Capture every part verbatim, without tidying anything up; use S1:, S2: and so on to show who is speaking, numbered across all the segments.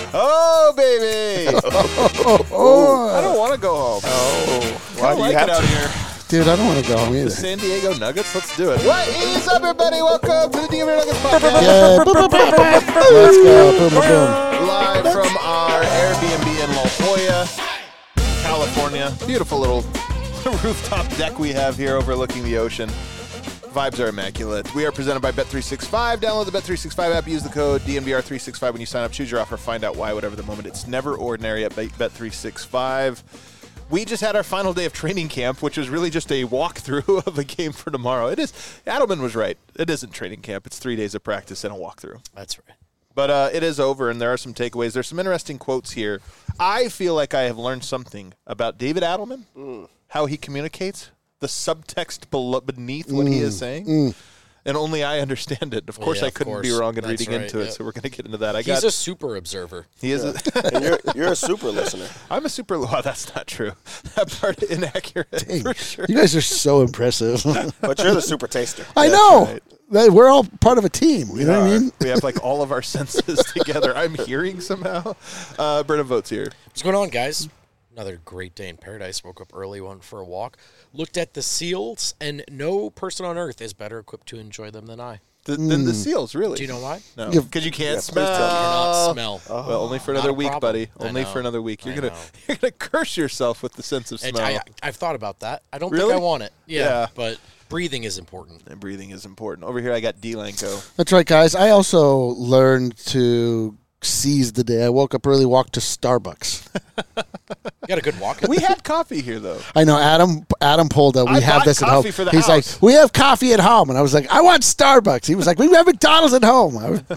S1: Oh, baby.
S2: oh, oh.
S1: I don't want to go home.
S3: Oh,
S1: why do you like have it out here?
S2: Dude, I don't want to go home either.
S1: The San Diego Nuggets? Let's do it. What is up, everybody? Welcome to the D M V Nuggets podcast.
S2: Yeah, boom, boom, boom, boom. Let's go. Boom, boom, boom.
S1: Live from our Airbnb in La Jolla, California. Beautiful little rooftop deck we have here overlooking the ocean. Vibes are immaculate. We are presented by Bet three sixty-five. Download the Bet three sixty-five app. Use the code D M V R three sixty-five when you sign up. Choose your offer. Find out why, whatever the moment. It's never ordinary at Bet three sixty-five. We just had our final day of training camp, which was really just a walkthrough of a game for tomorrow. It is. Adelman was right. It isn't training camp. It's three days of practice and a walkthrough.
S3: That's right.
S1: But uh, it is over, and there are some takeaways. There's some interesting quotes here. I feel like I have learned something about David Adelman, mm. how he communicates, the subtext below, beneath what mm. he is saying. Mm. And only I understand it. Of course, yeah, I couldn't course. be wrong in That's reading right, into it, yep. so we're going to get into that. I
S3: He's
S1: got,
S3: a super observer.
S1: He is.
S4: Yeah. A, and you're, you're a super listener.
S1: I'm a super. Well, that's not true. That part is inaccurate Dang, for sure.
S2: You guys are so impressive.
S4: But you're the super taster.
S2: I
S1: that's
S2: know. Right. We're all part of a team. You
S1: we
S2: know
S1: are.
S2: what I mean?
S1: We have like all of our senses together. I'm hearing somehow. Uh, Brennan Votes here.
S3: What's going on, guys? Another great day in paradise. Woke up early, went for a walk, looked at the seals, and no person on earth is better equipped to enjoy them than I.
S1: The, mm. Than the seals, really?
S3: Do you know why?
S1: No, because you can't
S4: yeah,
S1: smell.
S3: You cannot smell.
S1: Oh. Well, only for another week,
S3: problem.
S1: buddy. Only
S3: for
S1: another week. You're
S3: I
S1: gonna
S3: know.
S1: you're gonna curse yourself with the sense of smell.
S3: I, I, I've thought about that. I don't
S1: really?
S3: think I want it. Yeah,
S1: yeah,
S3: but breathing is important.
S1: And breathing is important. Over here, I got D-Lanco.
S2: That's right, guys. I also learned to seize the day. I woke up early, walked to Starbucks.
S3: You got a good walk.
S1: We had coffee here, though.
S2: I know. Adam Adam pulled up. We
S1: I
S2: have this at home.
S1: For the
S2: He's
S1: house.
S2: like, we have coffee at home. And I was like, I want Starbucks. He was like, we have McDonald's at home. I was,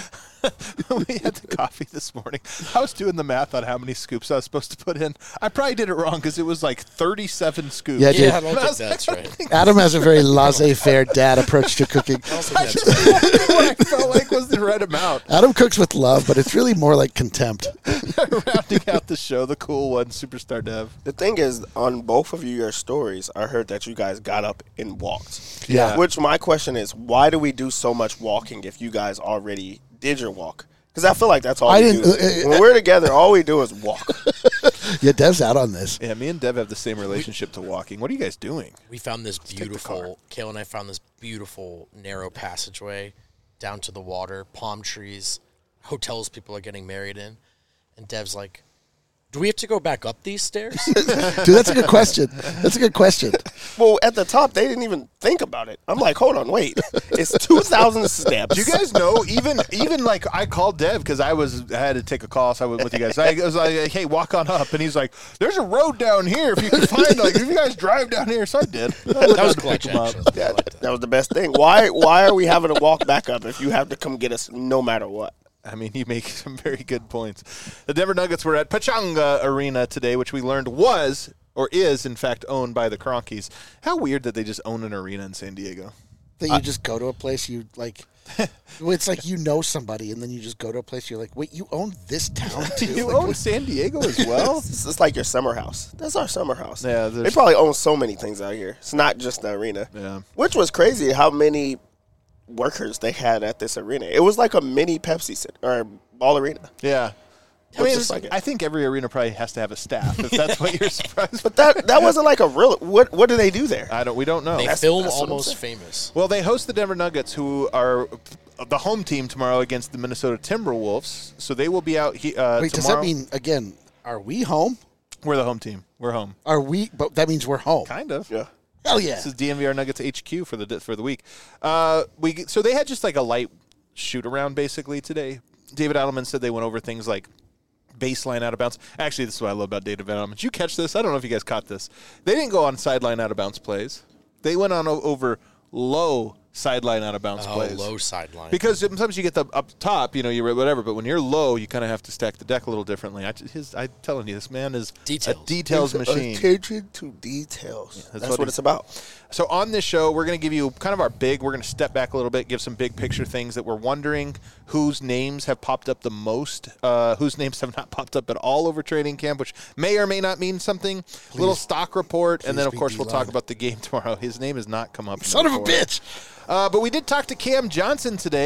S1: We had the coffee this morning. I was doing the math on how many scoops I was supposed to put in. I probably did it wrong because it was like thirty-seven scoops.
S2: Yeah, dude.
S3: Yeah, I don't think that's
S1: like,
S3: right.
S2: Adam has a very laissez-faire dad approach to cooking.
S3: I don't think
S1: I
S3: that's
S1: just
S3: right.
S1: what I felt like was the right amount.
S2: Adam cooks with love, but it's really more like contempt.
S1: Rounding out the show, the cool one, Superstar Dev.
S4: The thing is, on both of your stories, I heard that you guys got up and walked.
S2: Yeah.
S4: Which my question is, why do we do so much walking if you guys already did your walk? Because I feel like that's all
S2: I
S4: we
S2: didn't,
S4: do.
S2: uh,
S4: when we're together, all we do is walk.
S2: Yeah, Dev's out on this.
S1: Yeah, me and Dev have the same relationship to walking. What are you guys doing?
S3: We found this
S1: take the
S3: beautiful, Kale and I found this beautiful narrow passageway down to the water, palm trees, hotels people are getting married in. And Dev's like, do we have to go back up these stairs?
S2: Dude, that's a good question. That's a good question.
S4: Well, at the top, they didn't even think about it. I'm like, hold on, wait. It's two thousand steps.
S1: Do you guys know, even even like I called Dev because I was I had to take a call, so I went with you guys. I was like, hey, walk on up. And he's like, there's a road down here if you can find, like, if you guys drive down here. So I did. I
S3: That was clutch, actually. I
S4: Yeah,
S3: liked that.
S4: that was the best thing. Why Why are we having to walk back up if you have to come get us no matter what?
S1: I mean, you make some very good points. The Denver Nuggets were at Pechanga Arena today, which we learned was or is, in fact, owned by the Kroenkes. How weird that they just own an arena in San Diego.
S2: That you just go to a place you like. It's like you know somebody, and then you just go to a place. You're like, wait, you own this town too?
S1: You
S2: Like,
S1: own
S2: what-
S1: San Diego as well?
S4: It's just like your summer house. That's our summer house.
S1: Yeah,
S4: They
S1: there's-
S4: probably own so many things out here. It's not just the arena.
S1: Yeah.
S4: Which was crazy how many workers they had at this arena. It was like a mini Pepsi center, or ball arena.
S1: Yeah. I
S4: Looks
S1: mean,
S4: just like it.
S1: I think every arena probably has to have a staff. If that's what you're surprised.
S4: But that that wasn't like a real. What what do they do there?
S1: I don't. We don't know.
S3: They
S4: That's-
S3: film
S4: that's what I'm
S3: Almost
S4: saying.
S3: Famous.
S1: Well, they host the Denver Nuggets, who are the home team tomorrow against the Minnesota Timberwolves. So they will be out he, uh,
S2: Wait, does
S1: tomorrow.
S2: that mean again? Are we home?
S1: We're the home team. We're home.
S2: Are we? But that means we're home.
S1: Kind of.
S4: Yeah.
S2: Hell yeah!
S1: This is D N V R Nuggets H Q for the for the week. Uh, we so they had just like a light shoot around basically today. David Adelman said they went over things like baseline out of bounds. Actually, this is what I love about David Adelman. Did you catch this? I don't know if you guys caught this. They didn't go on sideline out of bounds plays. They went on o- over low sideline out of bounds
S3: Oh,
S1: plays.
S3: low sideline.
S1: Because sometimes you get the up top, you know, you whatever, but when you're low, you kind of have to stack the deck a little differently. I, his, I'm telling you, this man is
S3: Details.
S1: a details machine.
S4: Attention to details.
S1: that's
S4: that's
S1: what
S4: what
S1: he-
S4: it's about.
S1: So on this show, we're going to give you kind of our big, we're going to step back a little bit, give some big picture things that we're wondering whose names have popped up the most, uh, whose names have not popped up at all over training camp, which may or may not mean something.
S2: Please,
S1: little stock report, and then, of
S2: be
S1: course, we'll
S2: D-line.
S1: talk about the game tomorrow. His name has not come up.
S2: Son of a
S1: before.
S2: bitch!
S1: Uh, but we did talk to Cam Johnson today.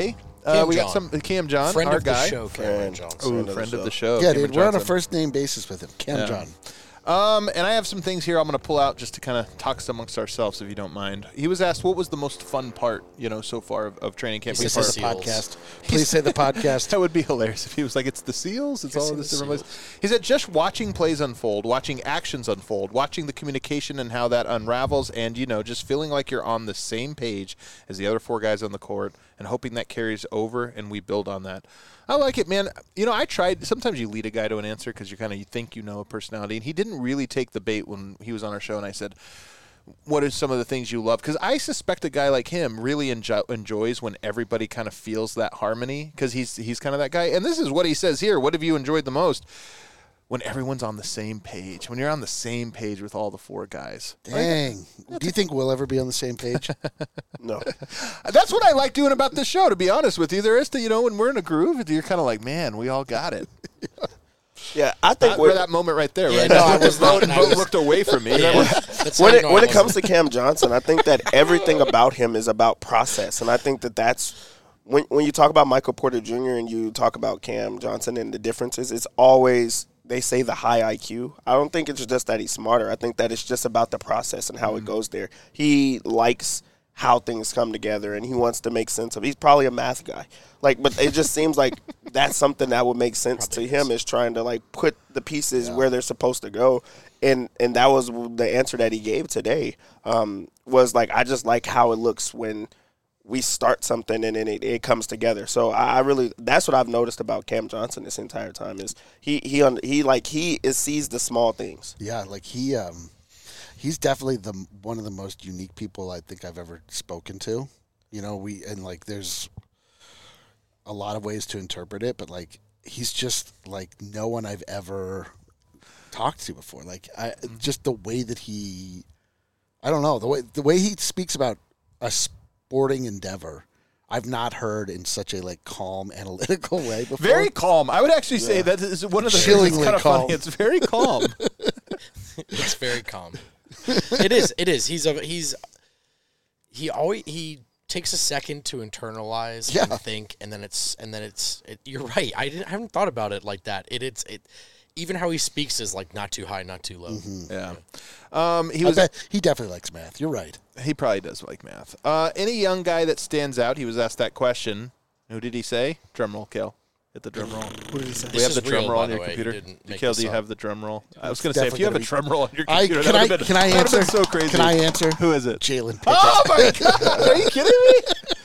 S1: Uh,
S3: Cam
S1: we got
S3: John.
S1: some Cam John,
S3: Friend
S1: our
S3: of
S1: guy.
S3: the show, Cameron
S4: Friend.
S3: Johnson.
S1: Ooh,
S4: Friend of the
S1: friend of
S4: show.
S1: the show.
S2: Yeah,
S1: Cameron
S2: dude, we're on a
S1: Johnson.
S2: first name basis with him. Cam
S1: Yeah.
S2: John.
S1: Um, and I have some things here I'm going to pull out just to kind of talk amongst ourselves, if you don't mind. He was asked what was the most fun part, you know, so far of, of training camp.
S3: He
S2: Please
S3: said
S2: say
S3: the
S2: the
S3: Seals.
S2: podcast. Please say the podcast.
S1: That would be hilarious if he was like, it's the SEALs, it's all of
S3: seen
S1: this
S3: the
S1: different place. He said just watching plays unfold, watching actions unfold, watching the communication and how that unravels, and, you know, just feeling like you're on the same page as the other four guys on the court and hoping that carries over and we build on that. I like it, man. You know, I tried. Sometimes you lead a guy to an answer because you kind of you think you know a personality, and he didn't really take the bait when he was on our show. And I said, "What are some of the things you love?" Because I suspect a guy like him really enjo- enjoys when everybody kind of feels that harmony because he's he's kind of that guy. And this is what he says here. What have you enjoyed the most? When everyone's on the same page. When you're on the same page with all the four guys.
S2: Dang. Do you think we'll ever be on the same page?
S4: No.
S1: That's what I like doing about this show, to be honest with you. There is, the, you know, when we're in a groove, you're kind of like, man, we all got it.
S4: Yeah, I think
S1: That,
S4: we're-
S1: that moment right there,
S3: Yeah,
S1: right?
S3: no, I was
S1: Bo,
S3: not, and I
S1: Bo
S3: was-
S1: looked away from me.
S3: Yeah, that's how
S4: when
S3: you
S4: it
S3: know I
S4: when it
S3: wasn't.
S4: comes to Cam Johnson, I think that everything about him is about process, and I think that that's when when you talk about Michael Porter Junior and you talk about Cam Johnson and the differences, it's always they say the high I Q. I don't think it's just that he's smarter. I think that it's just about the process and how
S1: Mm-hmm.
S4: it goes there. He likes how things come together, and he wants to make sense of. He's probably a math guy, like, but it just seems like that's something that would make sense
S3: Probably
S4: to him is trying to like put the pieces where they're supposed to go, and and that was the answer that he gave today. Um, was like I just like how it looks when we start something and then it, it comes together. So I, I really that's what I've noticed about Cam Johnson this entire time is he he un, he like he is, sees the small things.
S2: Yeah, like he, um, he's definitely the one of the most unique people I think I've ever spoken to. You know, we and like there's a lot of ways to interpret it, but like he's just like no one I've ever talked to before. Like I just the way that he, I don't know the way the way he speaks about a sporting endeavor. I've not heard in such a like calm, analytical way before.
S1: Very calm. I would actually say that is one of the things
S2: Chillingly
S1: that's kind of
S2: calm.
S1: funny. It's very calm.
S3: It's very calm. It is. It is. He's a he's he always he takes a second to internalize
S2: Yeah.
S3: and think, and then it's and then it's. It, you're right. I didn't. I haven't thought about it like that. It it's it. Even how he speaks is like not too high, not too low.
S1: Yeah. Um, he
S2: I
S1: was.
S2: bet he definitely likes math. You're right.
S1: He probably does like math. Uh, any young guy that stands out? He was asked that question. Who did he say? Drum roll, Kel. Hit the drum roll.
S2: What did he say?
S1: We have
S3: is
S1: the drum
S3: real,
S1: roll
S3: by
S1: on
S3: the
S1: your
S3: way. He
S1: computer.
S3: didn't make
S1: Kel,
S3: this
S1: do you
S3: up.
S1: have the drum roll? I was going to say, if
S2: definitely
S1: you have a
S2: gonna be-
S1: drum roll on your
S2: I,
S1: computer,
S2: can
S1: that
S2: I
S1: would have been,
S2: can I
S1: that would've
S2: answer?
S1: been so crazy.
S2: Can I answer?
S1: Who is it?
S2: Jalen Pickett.
S1: Oh my God! Are you kidding me?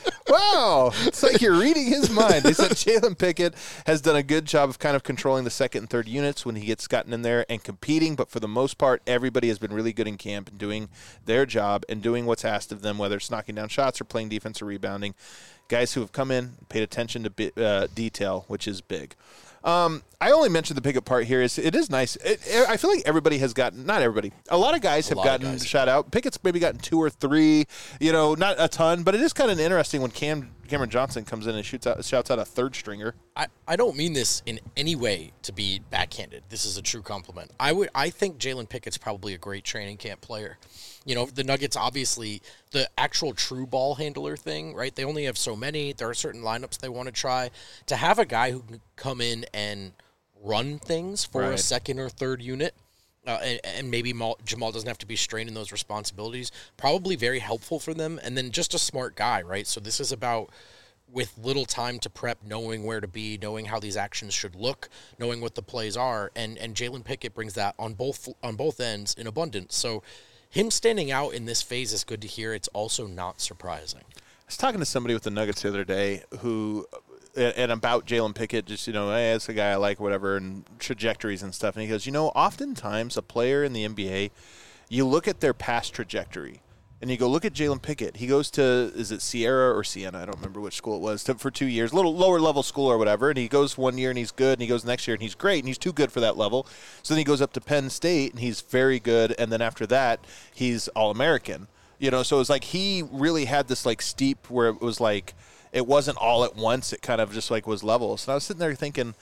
S1: Wow, it's like you're reading his mind. He said Jalen Pickett has done a good job of kind of controlling the second and third units when he gets gotten in there and competing, but for the most part, everybody has been really good in camp and doing their job and doing what's asked of them, whether it's knocking down shots or playing defense or rebounding. Guys who have come in, paid attention to bi- uh, detail, which is big. Um, I only mentioned the Pickett part here. Is it is nice. It, I feel like everybody has gotten, not everybody, a lot of guys
S3: A
S1: have
S3: lot of
S1: gotten
S3: guys.
S1: shot out. Pickett's maybe gotten two or three, you know, not a ton, but it is kind of interesting when Cam Cameron Johnson comes in and shoots out, shouts out a third stringer.
S3: I, I don't mean this in any way to be backhanded. This is a true compliment. I would I think Jalen Pickett's probably a great training camp player. You know, the Nuggets obviously the actual true ball handler thing, right? They only have so many. There are certain lineups they want to try. To have a guy who can come in and run things for a
S1: Right.
S3: second or third unit. Uh, and, and maybe Mal, Jamal doesn't have to be strained in those responsibilities. Probably very helpful for them. And then just a smart guy, right? So this is about, with little time to prep, knowing where to be, knowing how these actions should look, knowing what the plays are. And and Jalen Pickett brings that on both on both ends in abundance. So him standing out in this phase is good to hear. It's also not surprising.
S1: I was talking to somebody with the Nuggets the other day who, and about Jalen Pickett, just, you know, hey, that's a guy I like, whatever, and trajectories and stuff. And he goes, you know, oftentimes a player in the N B A, you look at their past trajectory, and you go, look at Jalen Pickett. He goes to, is it Sierra or Siena? I don't remember which school it was, to, for two years, a little lower level school or whatever. And he goes one year and he's good, and he goes next year and he's great, and he's too good for that level. So then he goes up to Penn State and he's very good. And then after that, he's All-American. You know, so it was like he really had this like steep where it was like, it wasn't all at once. It kind of just like was levels. And I was sitting there thinking,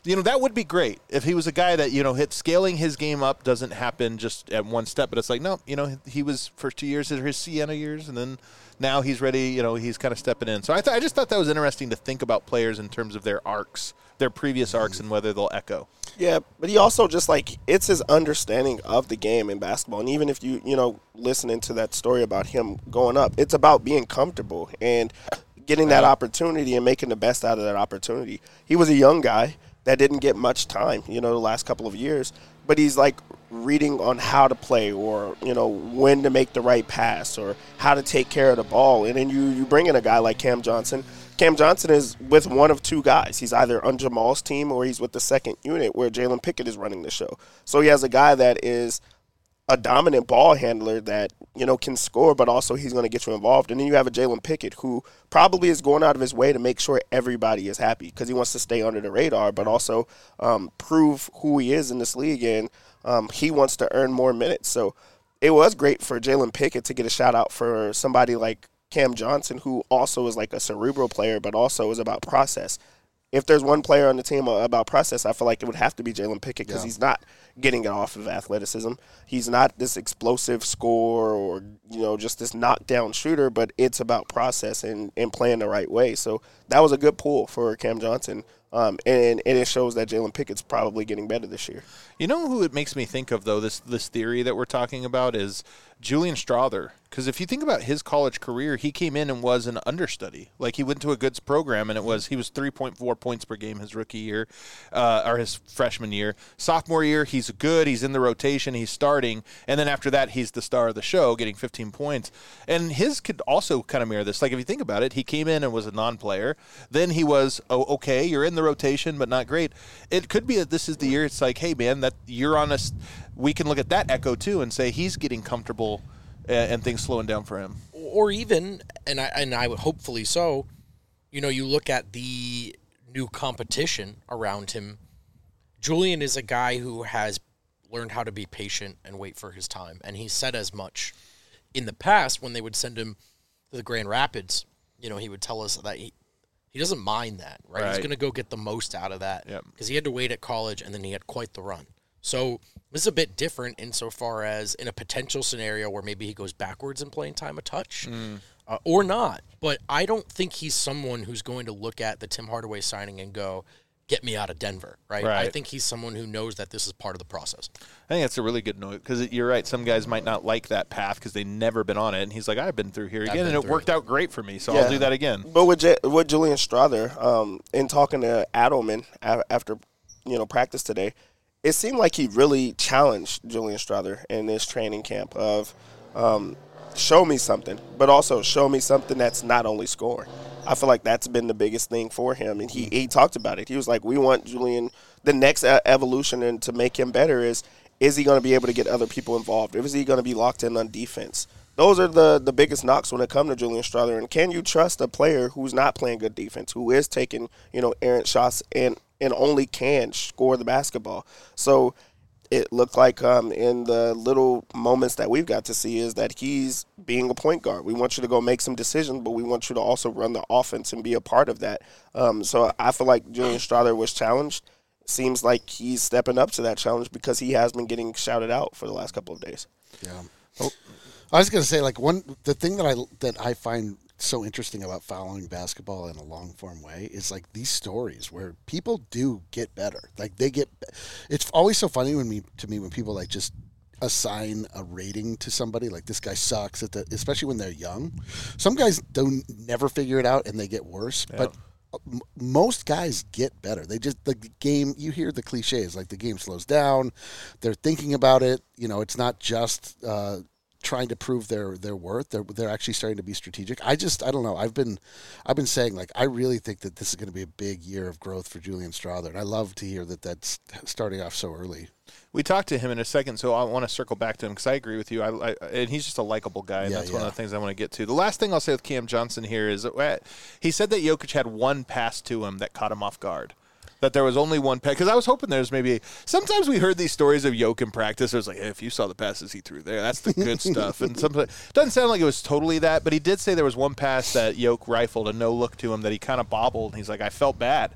S1: You know, that would be great if he was a guy that, you know, hit scaling his game up doesn't happen just at one step. But it's like, no, you know, he was first two years, his Siena years, and then now he's ready, you know, he's kind of stepping in. So I, th- I just thought that was interesting to think about players in terms of their arcs, their previous arcs, and whether they'll echo.
S4: Yeah, but he also just, like, it's his understanding of the game in basketball. And even if you, you know, listening to that story about him going up, it's about being comfortable and getting that opportunity and making the best out of that opportunity. He was a young guy that didn't get much time, you know, the last couple of years. But he's, like, reading on how to play or, you know, when to make the right pass or how to take care of the ball. And then you, you bring in a guy like Cam Johnson. Cam Johnson is with one of two guys. He's either on Jamal's team or he's with the second unit where Jalen Pickett is running the show. So he has a guy that is a dominant ball handler that, you know, can score, but also he's going to get you involved. And then you have a Jalen Pickett who probably is going out of his way to make sure everybody is happy because he wants to stay under the radar, but also um, prove who he is in this league, and um, he wants to earn more minutes. So it was great for Jalen Pickett to get a shout-out for somebody like Cam Johnson, who also is like a cerebral player, but also is about process. If there's one player on the team about process, I feel like it would have to be Jalen Pickett because yeah. he's not getting it off of athleticism. He's not this explosive scorer or, you know, just this knockdown shooter, but it's about process and, and playing the right way. So that was a good pull for Cam Johnson, um, and, and it shows that Jalen Pickett's probably getting better this year.
S1: You know who it makes me think of, though, this this theory that we're talking about is Julian Strother. Because if you think about his college career, he came in and was an understudy. Like, he went to a good program, and it was he was three point four points per game his rookie year, uh, or his freshman year. Sophomore year, he's good. He's in the rotation. He's starting. And then after that, he's the star of the show, getting fifteen points. And his could also kind of mirror this. Like, if you think about it, he came in and was a non-player. Then he was, oh, okay, you're in the rotation, but not great. It could be that this is the year it's like, hey, man, that you're on a – we can look at that echo, too, and say he's getting comfortable – and things slowing down for him.
S3: Or even, and I and I would hopefully so, you know, you look at the new competition around him. Julian is a guy who has learned how to be patient and wait for his time. And he said as much in the past when they would send him to the Grand Rapids. You know, he would tell us that he, he doesn't mind that, right? right. He's going to go get the most out of that because yep. he had to wait at college and then he had quite the run. So this is a bit different insofar as in a potential scenario where maybe he goes backwards in playing time a touch mm. uh, or not. But I don't think he's someone who's going to look at the Tim Hardaway signing and go, get me out of Denver, right? right? I think he's someone who knows that this is part of the process.
S1: I think that's a really good note because you're right. Some guys might not like that path because they've never been on it. And he's like, I've been through here again, and it worked it. out great for me, so yeah. I'll do that again.
S4: But with, J- with Julian Strother, um, in talking to Adelman after you know practice today, it seemed like he really challenged Julian Strother in this training camp of um, show me something, but also show me something that's not only scoring. I feel like that's been the biggest thing for him, and he, he talked about it. He was like, we want Julian, the next evolution and to make him better is, is he going to be able to get other people involved? Is he going to be locked in on defense? Those are the, the biggest knocks when it comes to Julian Strother. And can you trust a player who's not playing good defense, who is taking, you know, errant shots and, and only can score the basketball? So it looked like um, in the little moments that we've got to see is that he's being a point guard. We want you to go make some decisions, but we want you to also run the offense and be a part of that. Um, so I feel like Julian Strother was challenged. Seems like he's stepping up to that challenge because he has been getting shouted out for the last couple of days.
S2: Yeah. Oh. I was going to say, like, one the thing that I that I find so interesting about following basketball in a long form way is like these stories where people do get better. Like they get, it's always so funny when me to me when people like just assign a rating to somebody like this guy sucks at the, especially when they're young. Some guys don't never figure it out and they get worse, yeah. but m- most guys get better. They just the game. You hear the cliches like the game slows down. They're thinking about it. You know, it's not just. Uh, trying to prove their their worth. They're they're actually starting to be strategic. I just I don't know. I've been I've been saying like I really think that this is going to be a big year of growth for Julian Strother, and I love to hear that that's starting off so early.
S1: We talked to him in a second, so I want to circle back to him because I agree with you. I, I, and he's just a likable guy, and yeah, that's yeah. one of the things I want to get to. The last thing I'll say with Cam Johnson here is that he said that Jokic had one pass to him that caught him off guard. That there was only one pass. Because I was hoping there's maybe – sometimes we heard these stories of Jokic in practice. It was like, hey, if you saw the passes he threw there, that's the good stuff. And sometimes it doesn't sound like it was totally that, but he did say there was one pass that Jokic rifled, a no-look to him that he kind of bobbled. And he's like, I felt bad.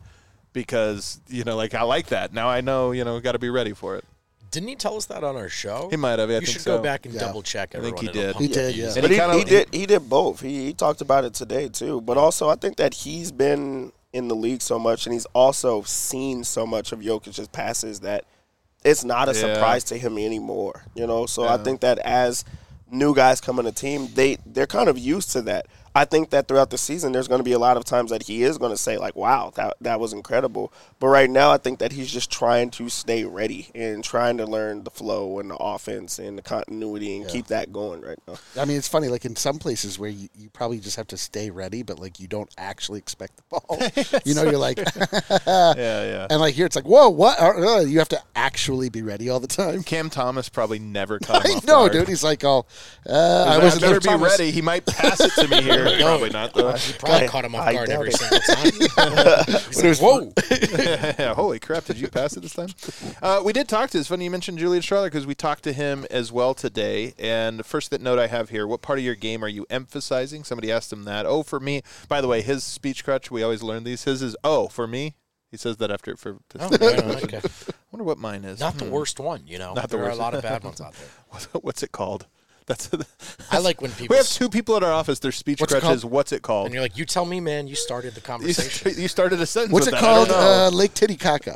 S1: because, you know, like, I like that. Now I know, you know, got to be ready for it.
S3: Didn't he tell us that on our show?
S1: He might have. Yeah, I
S3: you
S1: think
S3: should
S1: so.
S3: go back and
S2: Yeah.
S3: double check.
S1: I think
S3: Everyone.
S1: he
S3: It'll
S1: did.
S3: pump
S2: He did,
S3: the
S2: yeah.
S3: views.
S1: And
S4: But
S1: he
S4: he,
S1: kinda-
S4: he did he did both. He, he talked about it today too. But also, I think that he's been in the league so much, and he's also seen so much of Jokic's passes that it's not a
S1: Yeah.
S4: surprise to him anymore. You know, so I
S1: Yeah.
S4: think that as new guys come on the team, they they're kind of used to that. I think that throughout the season, there's going to be a lot of times that he is going to say, like, wow, that that was incredible. But right now, I think that he's just trying to stay ready and trying to learn the flow and the offense and the continuity and
S2: Yeah.
S4: keep that going right now.
S2: I mean, it's funny. Like in some places where you, you probably just have to stay ready, but like you don't actually expect the ball. You know, you're like,
S1: Yeah, yeah.
S2: and like here it's like, whoa, what? Uh, uh, you have to actually be ready all the time.
S1: Cam Thomas probably never caught him
S2: I
S1: off
S2: know,
S1: guard.
S2: dude. He's like, oh, uh, I
S1: I
S2: wasn't
S1: better
S2: Cam
S1: be
S2: Thomas.
S1: ready. He might pass it to me here. Probably not, though.
S3: He probably
S4: I-
S3: caught him off
S4: I
S3: guard
S4: doubt
S3: every
S4: it.
S3: single time. He's like, whoa.
S1: Yeah, holy crap, did you pass it this time? Uh, we did talk to, it's funny you mentioned Julian Strahler because we talked to him as well today. And the first that note I have here, what part of your game are you emphasizing? Somebody asked him that. Oh, for me. By the way, his speech crutch, we always learn these. His is, oh, for me. He says that after. For
S3: Oh, right, okay.
S1: I wonder what mine is.
S3: Not the
S1: Hmm.
S3: worst one, you know.
S1: Not the
S3: there
S1: worst.
S3: are a lot of bad ones out there.
S1: What's it called? That's.
S3: I like when people
S1: We have two people at our office. Their speech
S2: What's it
S1: crutch is,
S2: called?
S1: what's it called?
S3: and you're like, you tell me, man. You started the
S1: You,
S3: conversation.
S1: st- you started a sentence
S2: What's
S1: with
S2: it
S1: that. I don't
S2: called?
S1: know.
S2: Uh, Lake Titicaca.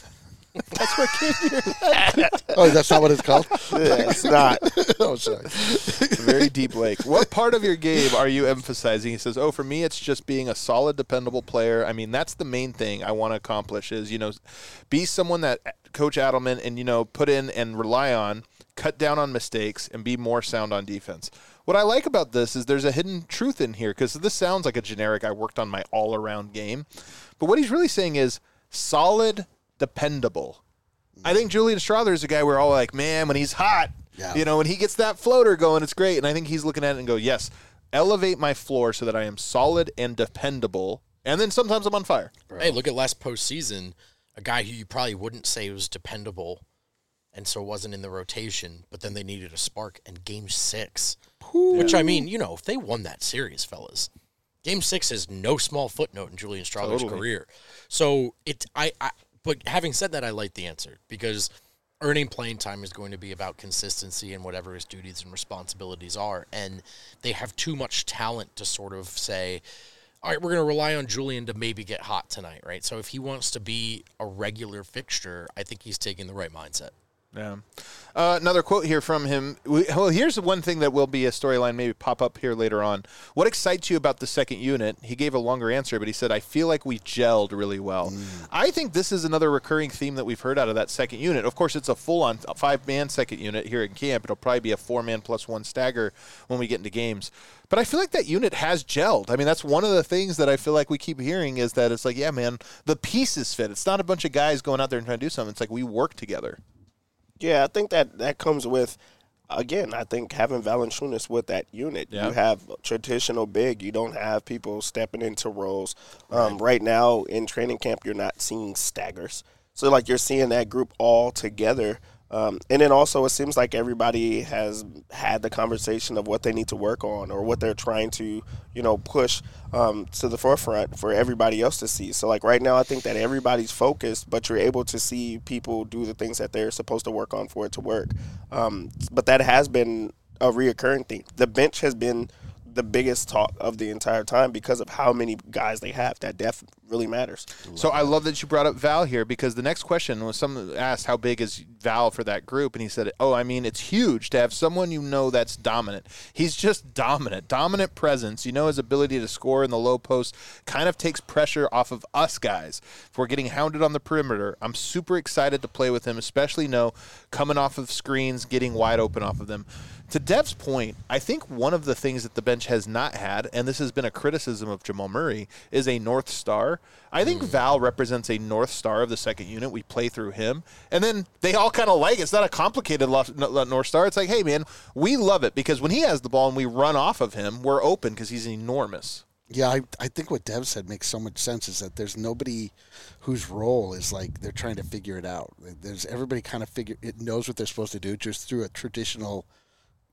S1: That's what came to your head.
S2: Oh, that's not what it's called.
S4: Yeah, it's not.
S2: Oh, sorry.
S1: It's a very deep lake. What part of your game are you emphasizing? He says, oh, for me, it's just being a solid, dependable player. I mean, that's the main thing I want to accomplish is, you know, be someone that Coach Adelman and, you know, put in and rely on, cut down on mistakes, and be more sound on defense. What I like about this is there's a hidden truth in here because this sounds like a generic, I worked on my all-around game. But what he's really saying is solid, dependable. I think Julian Strahler is a guy we're all like, man, when he's hot,
S2: Yeah.
S1: you know, when he gets that floater going, it's great. And I think he's looking at it and go, yes, elevate my floor so that I am solid and dependable. And then sometimes I'm on fire.
S3: Hey, look at last postseason. A guy who you probably wouldn't say was dependable and so wasn't in the rotation, but then they needed a spark. And game six, which, I mean, you know, if they won that series, fellas, game six is no small footnote in Julian Strahler's
S1: Totally.
S3: career. So, it, I, I, but having said that, I like the answer because earning playing time is going to be about consistency and whatever his duties and responsibilities are. And they have too much talent to sort of say, all right, we're going to rely on Julian to maybe get hot tonight, right? So if he wants to be a regular fixture, I think he's taking the right mindset.
S1: Yeah. Uh, another quote here from him. We, well, here's one thing that will be a storyline, maybe pop up here later on. What excites you about the second unit? He gave a longer answer, but he said, I feel like we gelled really well. Mm. I think this is another recurring theme that we've heard out of that second unit. Of course, it's a full-on five-man second unit here in camp. It'll probably be a four-man plus one stagger when we get into games. But I feel like that unit has gelled. I mean, that's one of the things that I feel like we keep hearing is that it's like, yeah, man, the pieces fit. It's not a bunch of guys going out there and trying to do something. It's like we work together.
S4: Yeah, I think that that comes with, again, I think having Valanciunas with that unit.
S1: Yeah.
S4: You have traditional big. You don't have people stepping into roles. Um, right now in training camp, you're not seeing staggers. So, like, you're seeing that group all together. Um, and then also it seems like everybody has had the conversation of what they need to work on or what they're trying to, you know, push um, to the forefront for everybody else to see. So, like, right now I think that everybody's focused, but you're able to see people do the things that they're supposed to work on for it to work. Um, but that has been a reoccurring thing. The bench has been the biggest talk of the entire time because of how many guys they have. That depth really matters.
S1: So I love that you brought up Val here because the next question was someone asked how big is Val for that group, and he said, oh, I mean, it's huge to have someone you know that's dominant. He's just dominant, dominant presence. You know his ability to score in the low post kind of takes pressure off of us guys. If we're getting hounded on the perimeter, I'm super excited to play with him, especially know coming off of screens, getting wide open off of them. To Dev's point, I think one of the things that the bench has not had, and this has been a criticism of Jamal Murray, is a North Star. I think mm. Val represents a North Star of the second unit. We play through him. And then they all kind of like it. It's not a complicated North Star. It's like, hey, man, we love it because when he has the ball and we run off of him, we're open because he's enormous.
S2: Yeah, I, I think what Dev said makes so much sense is that there's nobody whose role is like they're trying to figure it out. There's everybody kind of figure it knows what they're supposed to do just through a traditional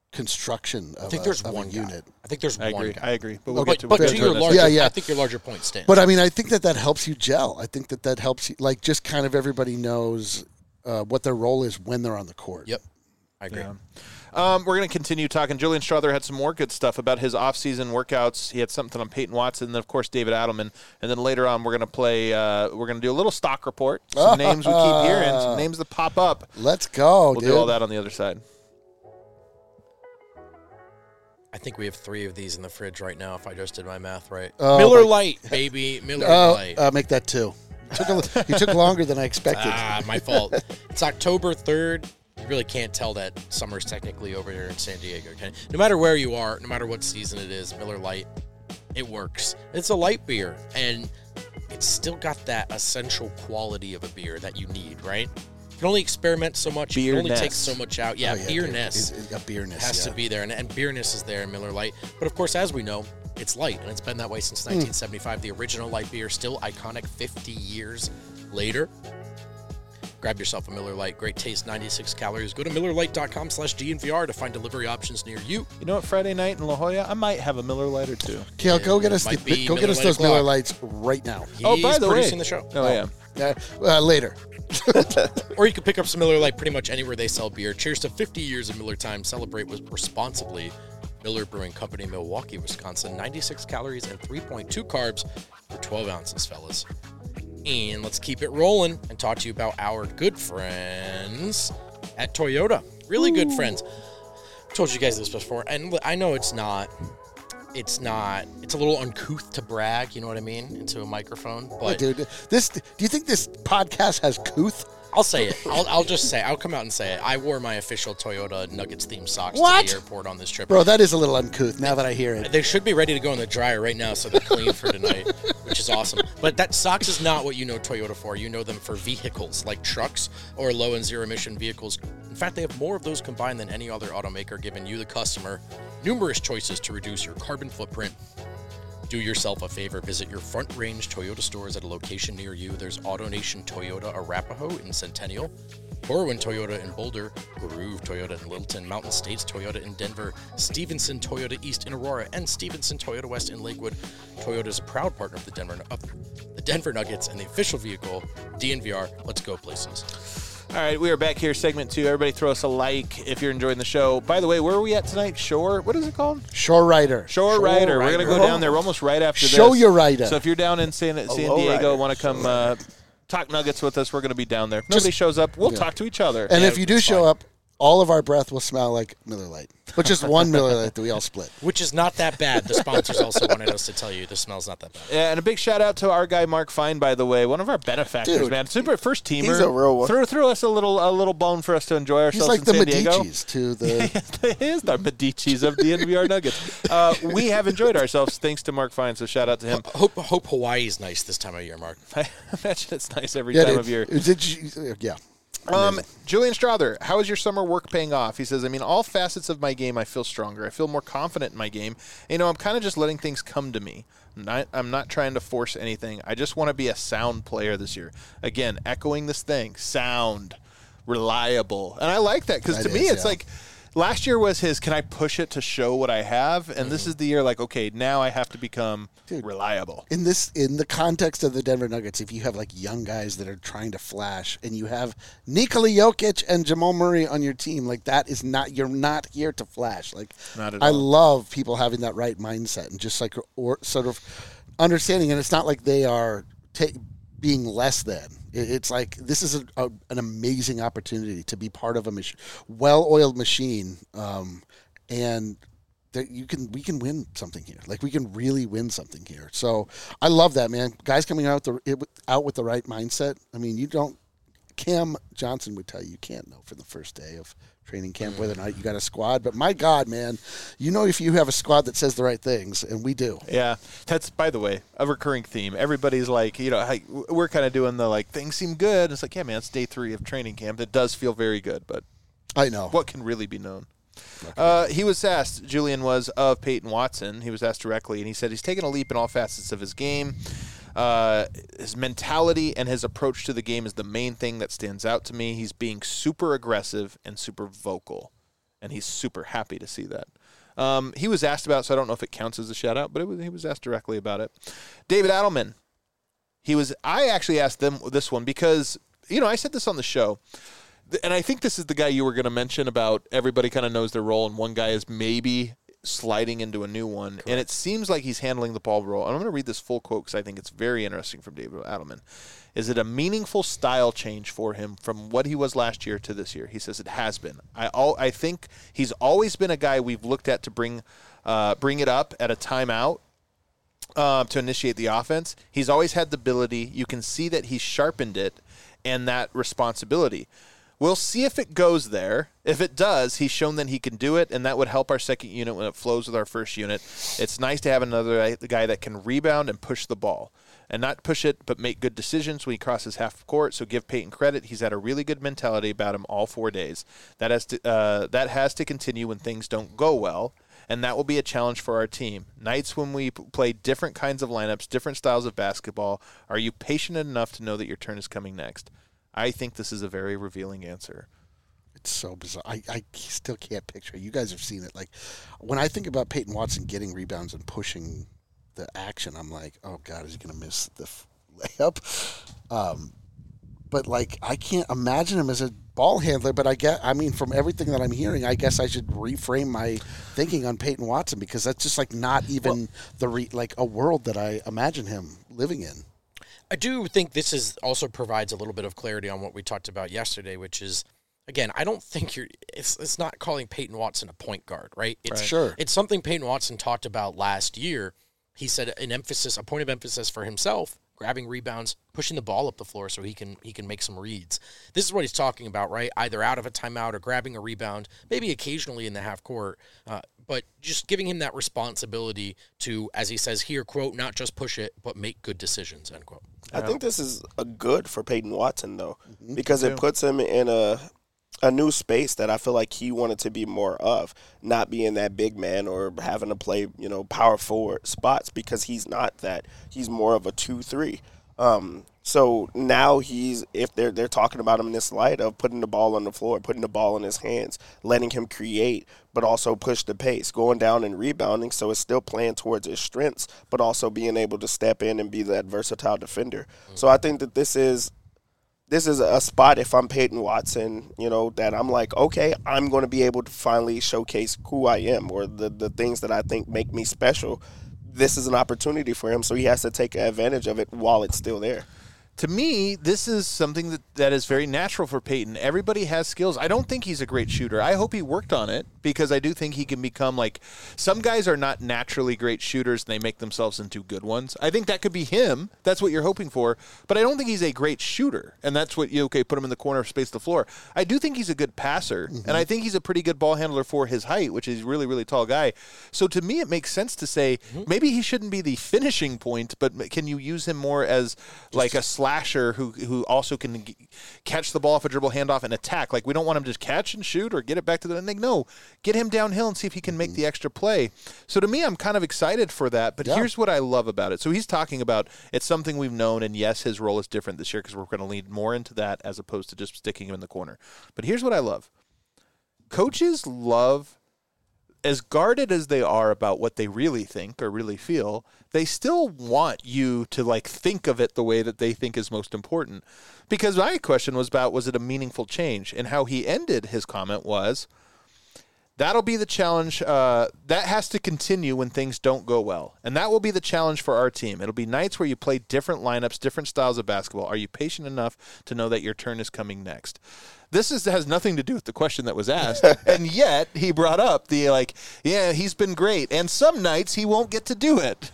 S2: construction of,
S3: I think
S2: a,
S3: there's
S2: of
S3: one
S2: a
S3: guy.
S2: unit.
S3: I think there's
S1: I
S3: one
S1: agree.
S3: guy.
S1: I agree. But we'll
S3: But,
S1: get to,
S3: but
S1: we'll
S3: to
S1: get
S3: your
S1: to it
S3: larger,
S2: Yeah, yeah.
S3: I think your larger point stands.
S2: But I mean, I think that that helps you gel. I think that that helps you, like, just kind of everybody knows uh, what their role is when they're on the court.
S3: Yep, I agree.
S1: Yeah. Um, we're going to continue talking. Julian Strother had some more good stuff about his off-season workouts. He had something on Peyton Watson, and then, of course, David Adelman. And then later on, we're going to play uh, – we're going to do a little stock report, some names we keep hearing, some names that pop up.
S2: Let's go,
S1: We'll
S2: dude.
S1: do all that on the other side.
S3: I think we have three of these in the fridge right now, if I just did my math right.
S2: Oh,
S3: Miller
S2: my-
S3: Lite, baby. Miller
S2: Oh,
S3: Lite.
S2: uh, make that two. You took, a, you took longer than I expected.
S3: Ah, my fault. It's October third. You really can't tell that summer's technically over here in San Diego. Okay? No matter where you are, no matter what season it is, Miller Lite, it works. It's a light beer, and it's still got that essential quality of a beer that you need, right? You can only experiment so much. You can only take
S1: Beerness.
S3: so much out. Yeah,
S2: Oh, yeah,
S3: beerness.
S2: dude. Is- A beerness,
S3: has
S2: yeah.
S3: to be there, and, and beerness is there in Miller Lite. But of course, as we know, it's light, and it's been that way since nineteen seventy-five. The original light beer, still iconic fifty years later. Grab yourself a Miller Lite. Great taste, ninety-six calories. Go to miller lite dot com slash D N V R to find delivery options near you.
S1: You know what? Friday night in La Jolla, I might have a Miller Lite or two.
S2: Kale, go
S3: It
S2: get us,
S3: might
S2: the,
S3: be
S2: go get
S3: Miller
S2: us
S3: Lite
S2: those
S3: o'clock.
S2: Miller Lights right now.
S1: Oh, by
S3: He's
S1: the way.
S3: producing the show.
S1: Oh, yeah.
S2: Uh, uh, later.
S3: Or you can pick up some Miller Lite pretty much anywhere they sell beer. Cheers to fifty years of Miller time. Celebrate with responsibly. Miller Brewing Company, Milwaukee, Wisconsin. ninety-six calories and three point two carbs for twelve ounces, fellas. And let's keep it rolling and talk to you about our good friends at Toyota. Really good friends. I've told you guys this before, and I know it's not, it's not, it's a little uncouth to brag, you know what I mean, into a microphone.
S2: Oh,
S3: But
S2: dude, this. Do you think this podcast has couth?
S3: I'll say it. I'll, I'll just say, I'll come out and say it. I wore my official Toyota Nuggets themed socks
S2: What?
S3: to the airport on this trip.
S2: Bro, that is a little uncouth now that I hear it.
S3: They should be ready to go in the dryer right now, so they're clean for tonight, which is awesome. But that socks is not what you know Toyota for. You know them for vehicles like trucks or low and zero emission vehicles. In fact, they have more of those combined than any other automaker, giving you, the customer, numerous choices to reduce your carbon footprint. Do yourself a favor. Visit your Front Range Toyota stores at a location near you. There's AutoNation Toyota Arapahoe in Centennial, Corwin Toyota in Boulder, Groove Toyota in Littleton, Mountain States Toyota in Denver, Stevenson Toyota East in Aurora, and Stevenson Toyota West in Lakewood. Toyota is a proud partner of the Denver of the Denver Nuggets and the official vehicle, D N V R. Let's go places.
S1: All right, we are back here, segment two. Everybody throw us a like if you're enjoying the show. By the way, where are we at tonight? Shore? What is it called?
S2: Shore Rider.
S1: Shore,
S3: Shore
S1: Rider. We're going to
S3: Rider.
S1: go down there. We're almost right after this.
S2: Show your rider.
S1: So if you're down in San, San
S4: Hello,
S1: Diego,
S4: Rider.
S1: want to come uh, talk Nuggets with us, we're going to be down there. If nobody shows up, we'll
S2: yeah.
S1: talk to each other.
S2: And
S3: Yeah,
S2: if you do
S3: it's
S2: show
S3: fine.
S2: up, all of our breath will smell like Miller Lite. But just one Miller Lite that we all split.
S3: Which is not that bad. The sponsors also wanted us to tell you the smell's not that bad.
S1: Yeah, and a big shout out to our guy Mark Fine, by the way, one of our benefactors,
S2: Dude.
S1: man. Super first teamer.
S4: He's a real one.
S1: Threw, threw us a little a little bone for us to enjoy
S2: He's
S1: ourselves
S2: like
S1: in
S2: the
S1: San Diego.
S2: Medici's to the.
S1: He is the Medici's of the N V R Nuggets. Uh, we have enjoyed ourselves thanks to Mark Fine, so shout out to him.
S3: Hope hope Hawaii's nice this time of year, Mark.
S1: I imagine it's nice every
S2: Yeah,
S1: time
S2: dude,
S1: of year.
S2: Did you, yeah.
S1: Um, Julian Strother, how is your summer work paying off? He says, I mean, all facets of my game, I feel stronger. I feel more confident in my game. You know, I'm kind of just letting things come to me. I'm not, I'm not trying to force anything. I just want to be a sound player this year. Again, echoing this thing, sound, reliable. And I like that because
S2: That
S1: to me,
S2: is,
S1: it's
S2: yeah.
S1: like last year was his, can I push it to show what I have? And
S2: Mm-hmm.
S1: this is the year like, okay, now I have to become
S2: Dude.
S1: reliable.
S2: In this, in the context of the Denver Nuggets, if you have like young guys that are trying to flash, and you have Nikola Jokic and Jamal Murray on your team, like that is not, you're not here to flash. Like,
S1: Not at
S2: I
S1: all.
S2: love people having that right mindset and just like or sort of understanding. And it's not like they are ta- being less than. It- It's like this is a, a, an amazing opportunity to be part of a mach- well-oiled machine, um, and that you can we can win something here. Like we can really win something here. So I love that, man. Guys coming out the it, out with the right mindset. I mean, you don't. Cam Johnson would tell you you can't know from the first day of training camp whether or not you got a squad. But my God, man, you know if you have a squad that says the right things, and we do.
S1: Yeah, that's, by the way, a recurring theme. Everybody's like, you know, hey, we're kind of doing the, like, things seem good. It's like, yeah, man, it's day three of training camp. It does feel very good, but
S2: I know.
S1: what can really be known? Uh, he was asked, Julian was, of Peyton Watson. He was asked directly, and he said he's taken a leap in all facets of his game. Uh, his mentality and his approach to the game is the main thing that stands out to me. He's being super aggressive and super vocal. and he's super happy to see that. Um, he was asked about, so I don't know if it counts as a shout-out, but it was, he was asked directly about it. David Adelman, he was. I actually asked them this one because, you know, I said this on the show, and I think this is the guy you were going to mention about everybody kind of knows their role, and one guy is maybe sliding into a new one. Correct. And it seems like he's handling the ball role. And I'm going to read this full quote because I think it's very interesting from David Adelman. Is it a meaningful style change for him from what he was last year to this year? He says it has been. I all, I think he's always been a guy we've looked at to bring uh, bring it up at a timeout uh, to initiate the offense. He's always had the ability. You can see that he's sharpened it and that responsibility. We'll see if it goes there. If it does, he's shown that he can do it, and that would help our second unit when it flows with our first unit. It's nice to have another guy that can rebound and push the ball. And not push it, but make good decisions when he crosses half court. So give Peyton credit. He's had a really good mentality about him all four days. That has to uh, that has to continue when things don't go well, and that will be a challenge for our team. Nights when we p- play different kinds of lineups, different styles of basketball, are you patient enough to know that your turn is coming next? I think this is a very revealing answer.
S2: It's so bizarre. I, I still can't picture it. You guys have seen it. Like, when I think about Peyton Watson getting rebounds and pushing the action, I'm like, oh God, is he going to miss the f- layup? Um, but like, I can't imagine him as a ball handler. But I get, I mean, from everything that I'm hearing, I guess I should reframe my thinking on Peyton Watson, because that's just like not even well, the re- like a world that I imagine him living in.
S3: I do think this is also provides a little bit of clarity on what we talked about yesterday, which is, again, I don't think you're. It's it's not calling Peyton Watson a point guard, right? It's
S2: right. Sure.
S3: It's something Peyton Watson talked about last year. He said an emphasis, a point of emphasis for himself, grabbing rebounds, pushing the ball up the floor so he can he can make some reads. This is what he's talking about, right? Either out of a timeout or grabbing a rebound, maybe occasionally in the half court, uh, but just giving him that responsibility to, as he says here, quote, not just push it, but make good decisions, end quote.
S4: I think this is a good for Peyton Watson, though, mm-hmm. because it puts him in a a new space that I feel like he wanted to be more of, not being that big man or having to play, you know, power forward spots, because he's not that. He's more of a two three. Um, so now he's, if they're they're talking about him in this light of putting the ball on the floor, putting the ball in his hands, letting him create, but also push the pace, going down and rebounding. So it's still playing towards his strengths, but also being able to step in and be that versatile defender. Mm-hmm. So I think that this is this is a spot, if I'm Peyton Watson, you know, that I'm like, okay, I'm going to be able to finally showcase who I am, or the, the things that I think make me special. This is an opportunity for him, so he has to take advantage of it while it's still there.
S1: To me, this is something that, that is very natural for Peyton. Everybody has skills. I don't think he's a great shooter. I hope he worked on it, because I do think he can become like – some guys are not naturally great shooters, and they make themselves into good ones. I think that could be him. That's what you're hoping for. But I don't think he's a great shooter, and that's what you – okay, put him in the corner, space the floor. I do think he's a good passer, mm-hmm. and I think he's a pretty good ball handler for his height, which is a really, really tall guy. So to me, it makes sense to say mm-hmm. maybe he shouldn't be the finishing point, but can you use him more as like a slasher who who also can g- catch the ball off a dribble, handoff, and attack. Like, we don't want him to just catch and shoot or get it back to the – like, no, get him downhill and see if he can make the extra play. So to me, I'm kind of excited for that. But yeah. Here's what I love about it. So he's talking about it's something we've known, and yes, his role is different this year because we're going to lean more into that as opposed to just sticking him in the corner. But here's what I love. Coaches love – as guarded as they are about what they really think or really feel, they still want you to like think of it the way that they think is most important. Because my question was about, was it a meaningful change? And how he ended his comment was, that'll be the challenge. Uh, that has to continue when things don't go well. And that will be the challenge for our team. It'll be nights where you play different lineups, different styles of basketball. Are you patient enough to know that your turn is coming next? This is, has nothing to do with the question that was asked. And yet he brought up the, like, yeah, he's been great. And some nights he won't get to do it.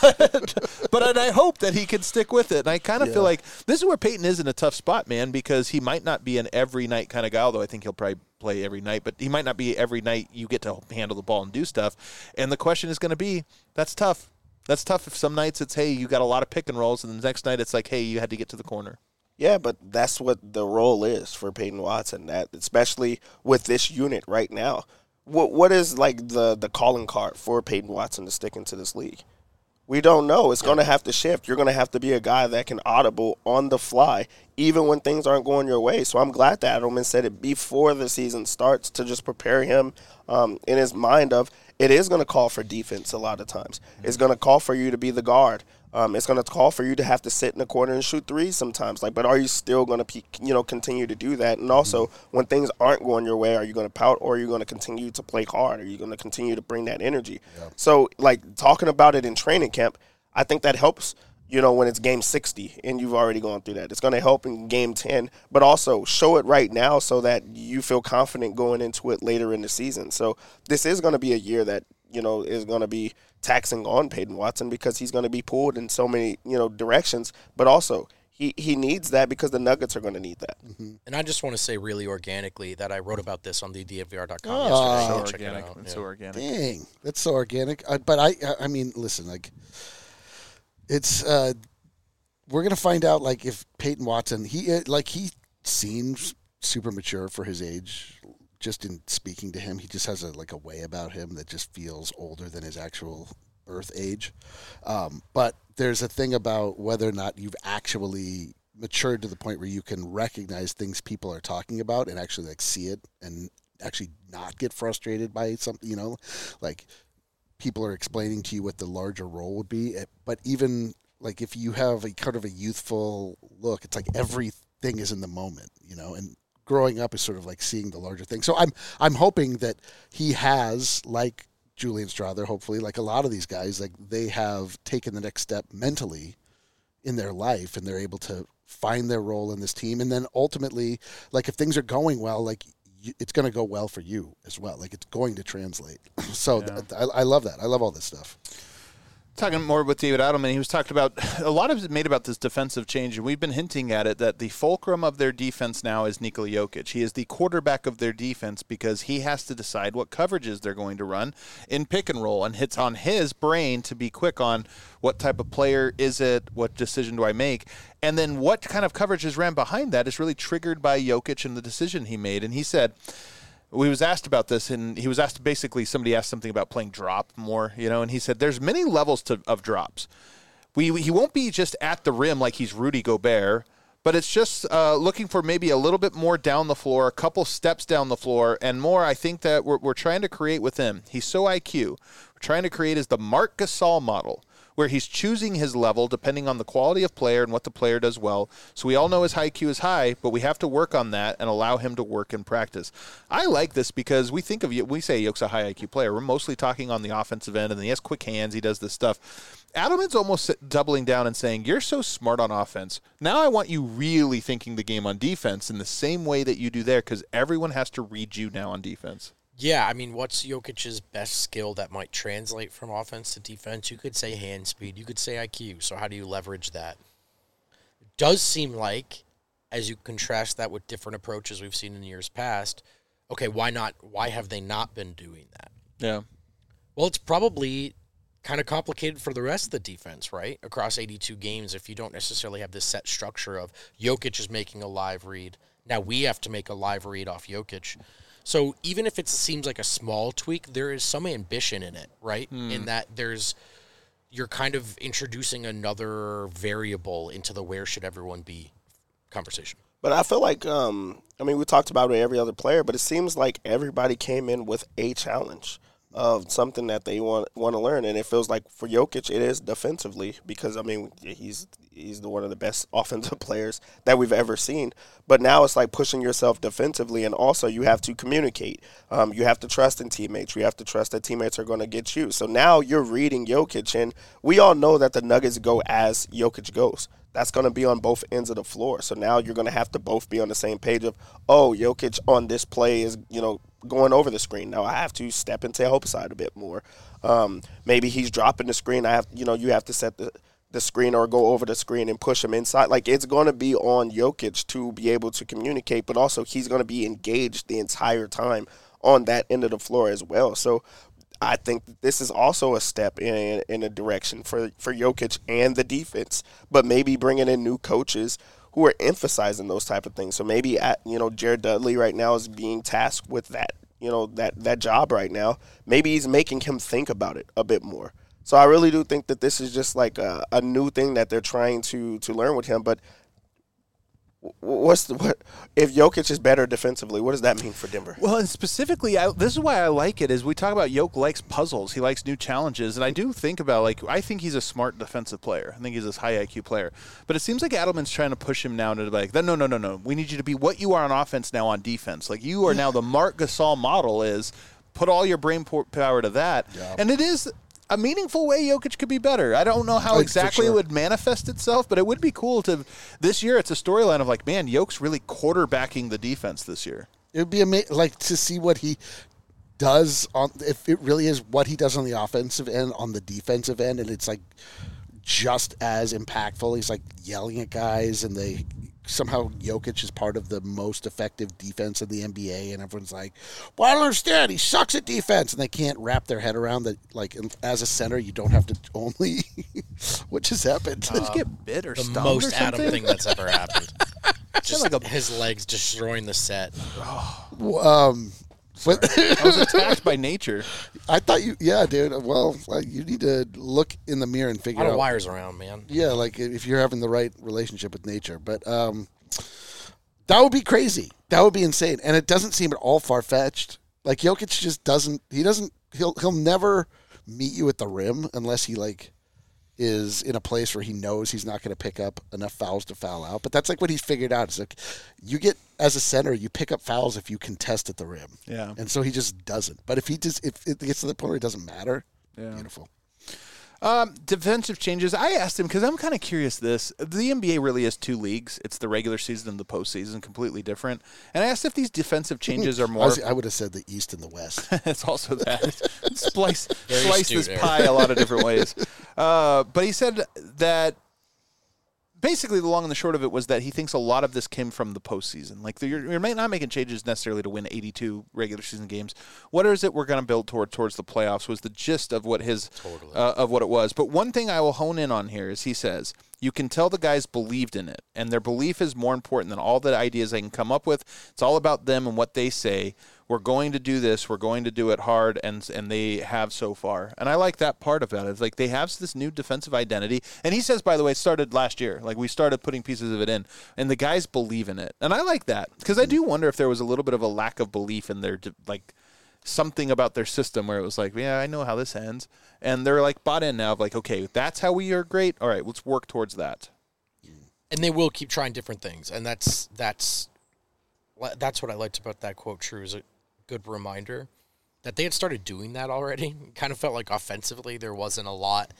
S1: but, but I hope that he can stick with it. And I kind of yeah. feel like this is where Peyton is in a tough spot, man, because he might not be an every night kind of guy, although I think he'll probably play every night. But he might not be every night you get to handle the ball and do stuff. And the question is going to be, that's tough. That's tough if some nights it's, hey, you got a lot of pick and rolls, and the next night it's like, hey, you had to get to the corner.
S4: Yeah, but that's what the role is for Peyton Watson, that especially with this unit right now. What What is, like, the, the calling card for Peyton Watson to stick into this league? We don't know. It's yeah. going to have to shift. You're going to have to be a guy that can audible on the fly, even when things aren't going your way. So I'm glad that Adelman said it before the season starts to just prepare him um, in his mind of it is going to call for defense a lot of times. Mm-hmm. It's going to call for you to be the guard. Um, it's going to call for you to have to sit in the corner and shoot threes sometimes. Like, but are you still going to, you know, continue to do that? And also, mm-hmm. when things aren't going your way, are you going to pout or are you going to continue to play hard? Are you going to continue to bring that energy? Yeah. So, like, talking about it in training camp, I think that helps, you know, when it's game sixty and you've already gone through that. It's going to help in game ten, but also show it right now so that you feel confident going into it later in the season. So this is going to be a year that, you know, is going to be taxing on Peyton Watson because he's going to be pulled in so many, you know, directions, but also he, he needs that because the Nuggets are going to need that.
S3: Mm-hmm. And I just want to say really organically that I wrote about this on the D F V R dot com
S2: oh,
S3: yesterday.
S1: So
S3: Check
S1: organic.
S3: it out.
S1: It's
S3: yeah.
S1: so organic.
S2: Dang, that's so organic. Uh, but I, I mean, listen, like, it's, uh, we're going to find out, like, if Peyton Watson, he, like, he seems super mature for his age. Just in speaking to him, he just has a like a way about him that just feels older than his actual birth age. Um, but there's a thing about whether or not you've actually matured to the point where you can recognize things people are talking about and actually like see it and actually not get frustrated by something, you know, like people are explaining to you what the larger role would be. But even like if you have a kind of a youthful look, it's like everything is in the moment, you know, and growing up is sort of like seeing the larger thing. So I'm I'm hoping that he has, like Julian Strawther, hopefully, like a lot of these guys, like they have taken the next step mentally in their life and they're able to find their role in this team. And then ultimately, like if things are going well, like you, it's going to go well for you as well. Like it's going to translate. So yeah. th- I, I love that. I love all this stuff.
S1: Talking more with David Adelman, he was talking about, a lot of it made about this defensive change, and we've been hinting at it, that the fulcrum of their defense now is Nikola Jokic. He is the quarterback of their defense because he has to decide what coverages they're going to run in pick and roll, and it's on his brain to be quick on what type of player is it, what decision do I make, and then what kind of coverages ran behind that is really triggered by Jokic and the decision he made. And he said, he was asked about this, and he was asked basically, somebody asked something about playing drop more, you know, and he said there's many levels to, of drops. We He won't be just at the rim like he's Rudy Gobert, but it's just uh, looking for maybe a little bit more down the floor, a couple steps down the floor, and more I think that we're, we're trying to create with him. He's so I Q. We're trying to create is the Marc Gasol model, where he's choosing his level depending on the quality of player and what the player does well. So we all know his I Q is high, but we have to work on that and allow him to work in practice. I like this because we think of, we say Yoke's a high I Q player. We're mostly talking on the offensive end, and he has quick hands. He does this stuff. Adelman's almost doubling down and saying, you're so smart on offense. Now I want you really thinking the game on defense in the same way that you do there, because everyone has to read you now on defense.
S3: Yeah, I mean, what's Jokic's best skill that might translate from offense to defense? You could say hand speed. You could say I Q. So how do you leverage that? It does seem like, as you contrast that with different approaches we've seen in years past, okay, why not? Why have they not been doing that?
S1: Yeah.
S3: Well, it's probably kind of complicated for the rest of the defense, right? Across eighty-two games, if you don't necessarily have this set structure of Jokic is making a live read. Now we have to make a live read off Jokic. So even if it seems like a small tweak, there is some ambition in it, right? Mm. In that there's, you're kind of introducing another variable into the where should everyone be conversation.
S4: But I feel like, um, I mean, we talked about it every other player, but it seems like everybody came in with a challenge of something that they want want to learn, and it feels like for Jokic it is defensively because I mean he's he's the one of the best offensive players that we've ever seen. But now it's like pushing yourself defensively, and also you have to communicate. Um, you have to trust in teammates. You have to trust that teammates are going to get you. So now you're reading Jokic, and we all know that the Nuggets go as Jokic goes. That's going to be on both ends of the floor. So now you're going to have to both be on the same page of, oh, Jokic on this play is, you know, going over the screen. Now I have to step into help side a bit more. Um, maybe he's dropping the screen. I have, you know, you have to set the, the screen or go over the screen and push him inside. Like it's going to be on Jokic to be able to communicate, but also he's going to be engaged the entire time on that end of the floor as well. So I think this is also a step in in a direction for, for Jokic and the defense, but maybe bringing in new coaches who are emphasizing those type of things. So maybe, at, you know, Jared Dudley right now is being tasked with that, you know, that, that job right now. Maybe he's making him think about it a bit more. So I really do think that this is just like a, a new thing that they're trying to to learn with him. But what's the, what if Jokic is better defensively? What does that mean for Denver?
S1: Well, and specifically, I, this is why I like it. Is we talk about Jokic likes puzzles, he likes new challenges, and I do think about like I think he's a smart defensive player. I think he's this high I Q player. But it seems like Adelman's trying to push him now to be like, no, no, no, no. We need you to be what you are on offense now on defense. Like you are now the Marc Gasol model is put all your brain power to that, yeah. And it is a meaningful way Jokic could be better. I don't know how like, exactly sure. it would manifest itself, but it would be cool to this year. It's a storyline of like, man, Jokic's really quarterbacking the defense this year.
S2: It would be amazing, like to see what he does on if it really is what he does on the offensive end, on the defensive end, and it's like just as impactful. He's like yelling at guys, and they somehow Jokic is part of the most effective defense in the N B A, and everyone's like, well, I don't understand. He sucks at defense, and they can't wrap their head around that. Like, as a center, you don't have to only – what just happened?
S1: Uh, just get bit or
S3: the
S1: stung
S3: most
S1: or something?
S3: Adam thing that's ever happened. Just like a, his legs destroying the set.
S2: um, but
S1: I was attacked by nature.
S2: I thought you – yeah, dude. Well, you need to look in the mirror and figure out –
S3: a lot of wires around, man.
S2: Yeah, like if you're having the right relationship with nature. But um, that would be crazy. That would be insane. And it doesn't seem at all far-fetched. Like, Jokic just doesn't – he doesn't – he'll he'll never meet you at the rim unless he, like, is in a place where he knows he's not going to pick up enough fouls to foul out. But that's, like, what he's figured out. It's like you get – as a center, you pick up fouls if you contest at the rim.
S1: Yeah.
S2: And so he just doesn't. But if he just if it gets to the point where it doesn't matter, yeah. Beautiful.
S1: Um, defensive changes. I asked him because I'm kind of curious. This the N B A really is two leagues. It's the regular season and the postseason, completely different. And I asked if these defensive changes are more.
S2: I, was, I would have said the East and the West.
S1: It's also that slice slice this pie a lot of different ways. Uh, but he said that. Basically, the long and the short of it was that he thinks a lot of this came from the postseason. Like, the, you're, you're not making changes necessarily to win eighty-two regular season games. What is it we're going to build toward towards the playoffs was the gist of what his totally. uh, of what it was. But one thing I will hone in on here is he says, you can tell the guys believed in it, and their belief is more important than all the ideas they can come up with. It's all about them and what they say. We're going to do this. We're going to do it hard, and and they have so far. And I like that part of it. It's like they have this new defensive identity. And he says, by the way, it started last year. Like, we started putting pieces of it in, and the guys believe in it. And I like that because I do wonder if there was a little bit of a lack of belief in their, like, something about their system where it was like, yeah, I know how this ends. And they're, like, bought in now of, like, okay, that's how we are great. All right, let's work towards that.
S3: And they will keep trying different things. And that's that's that's what I liked about that quote, True, is a good reminder that they had started doing that already. It kind of felt like offensively there wasn't a lot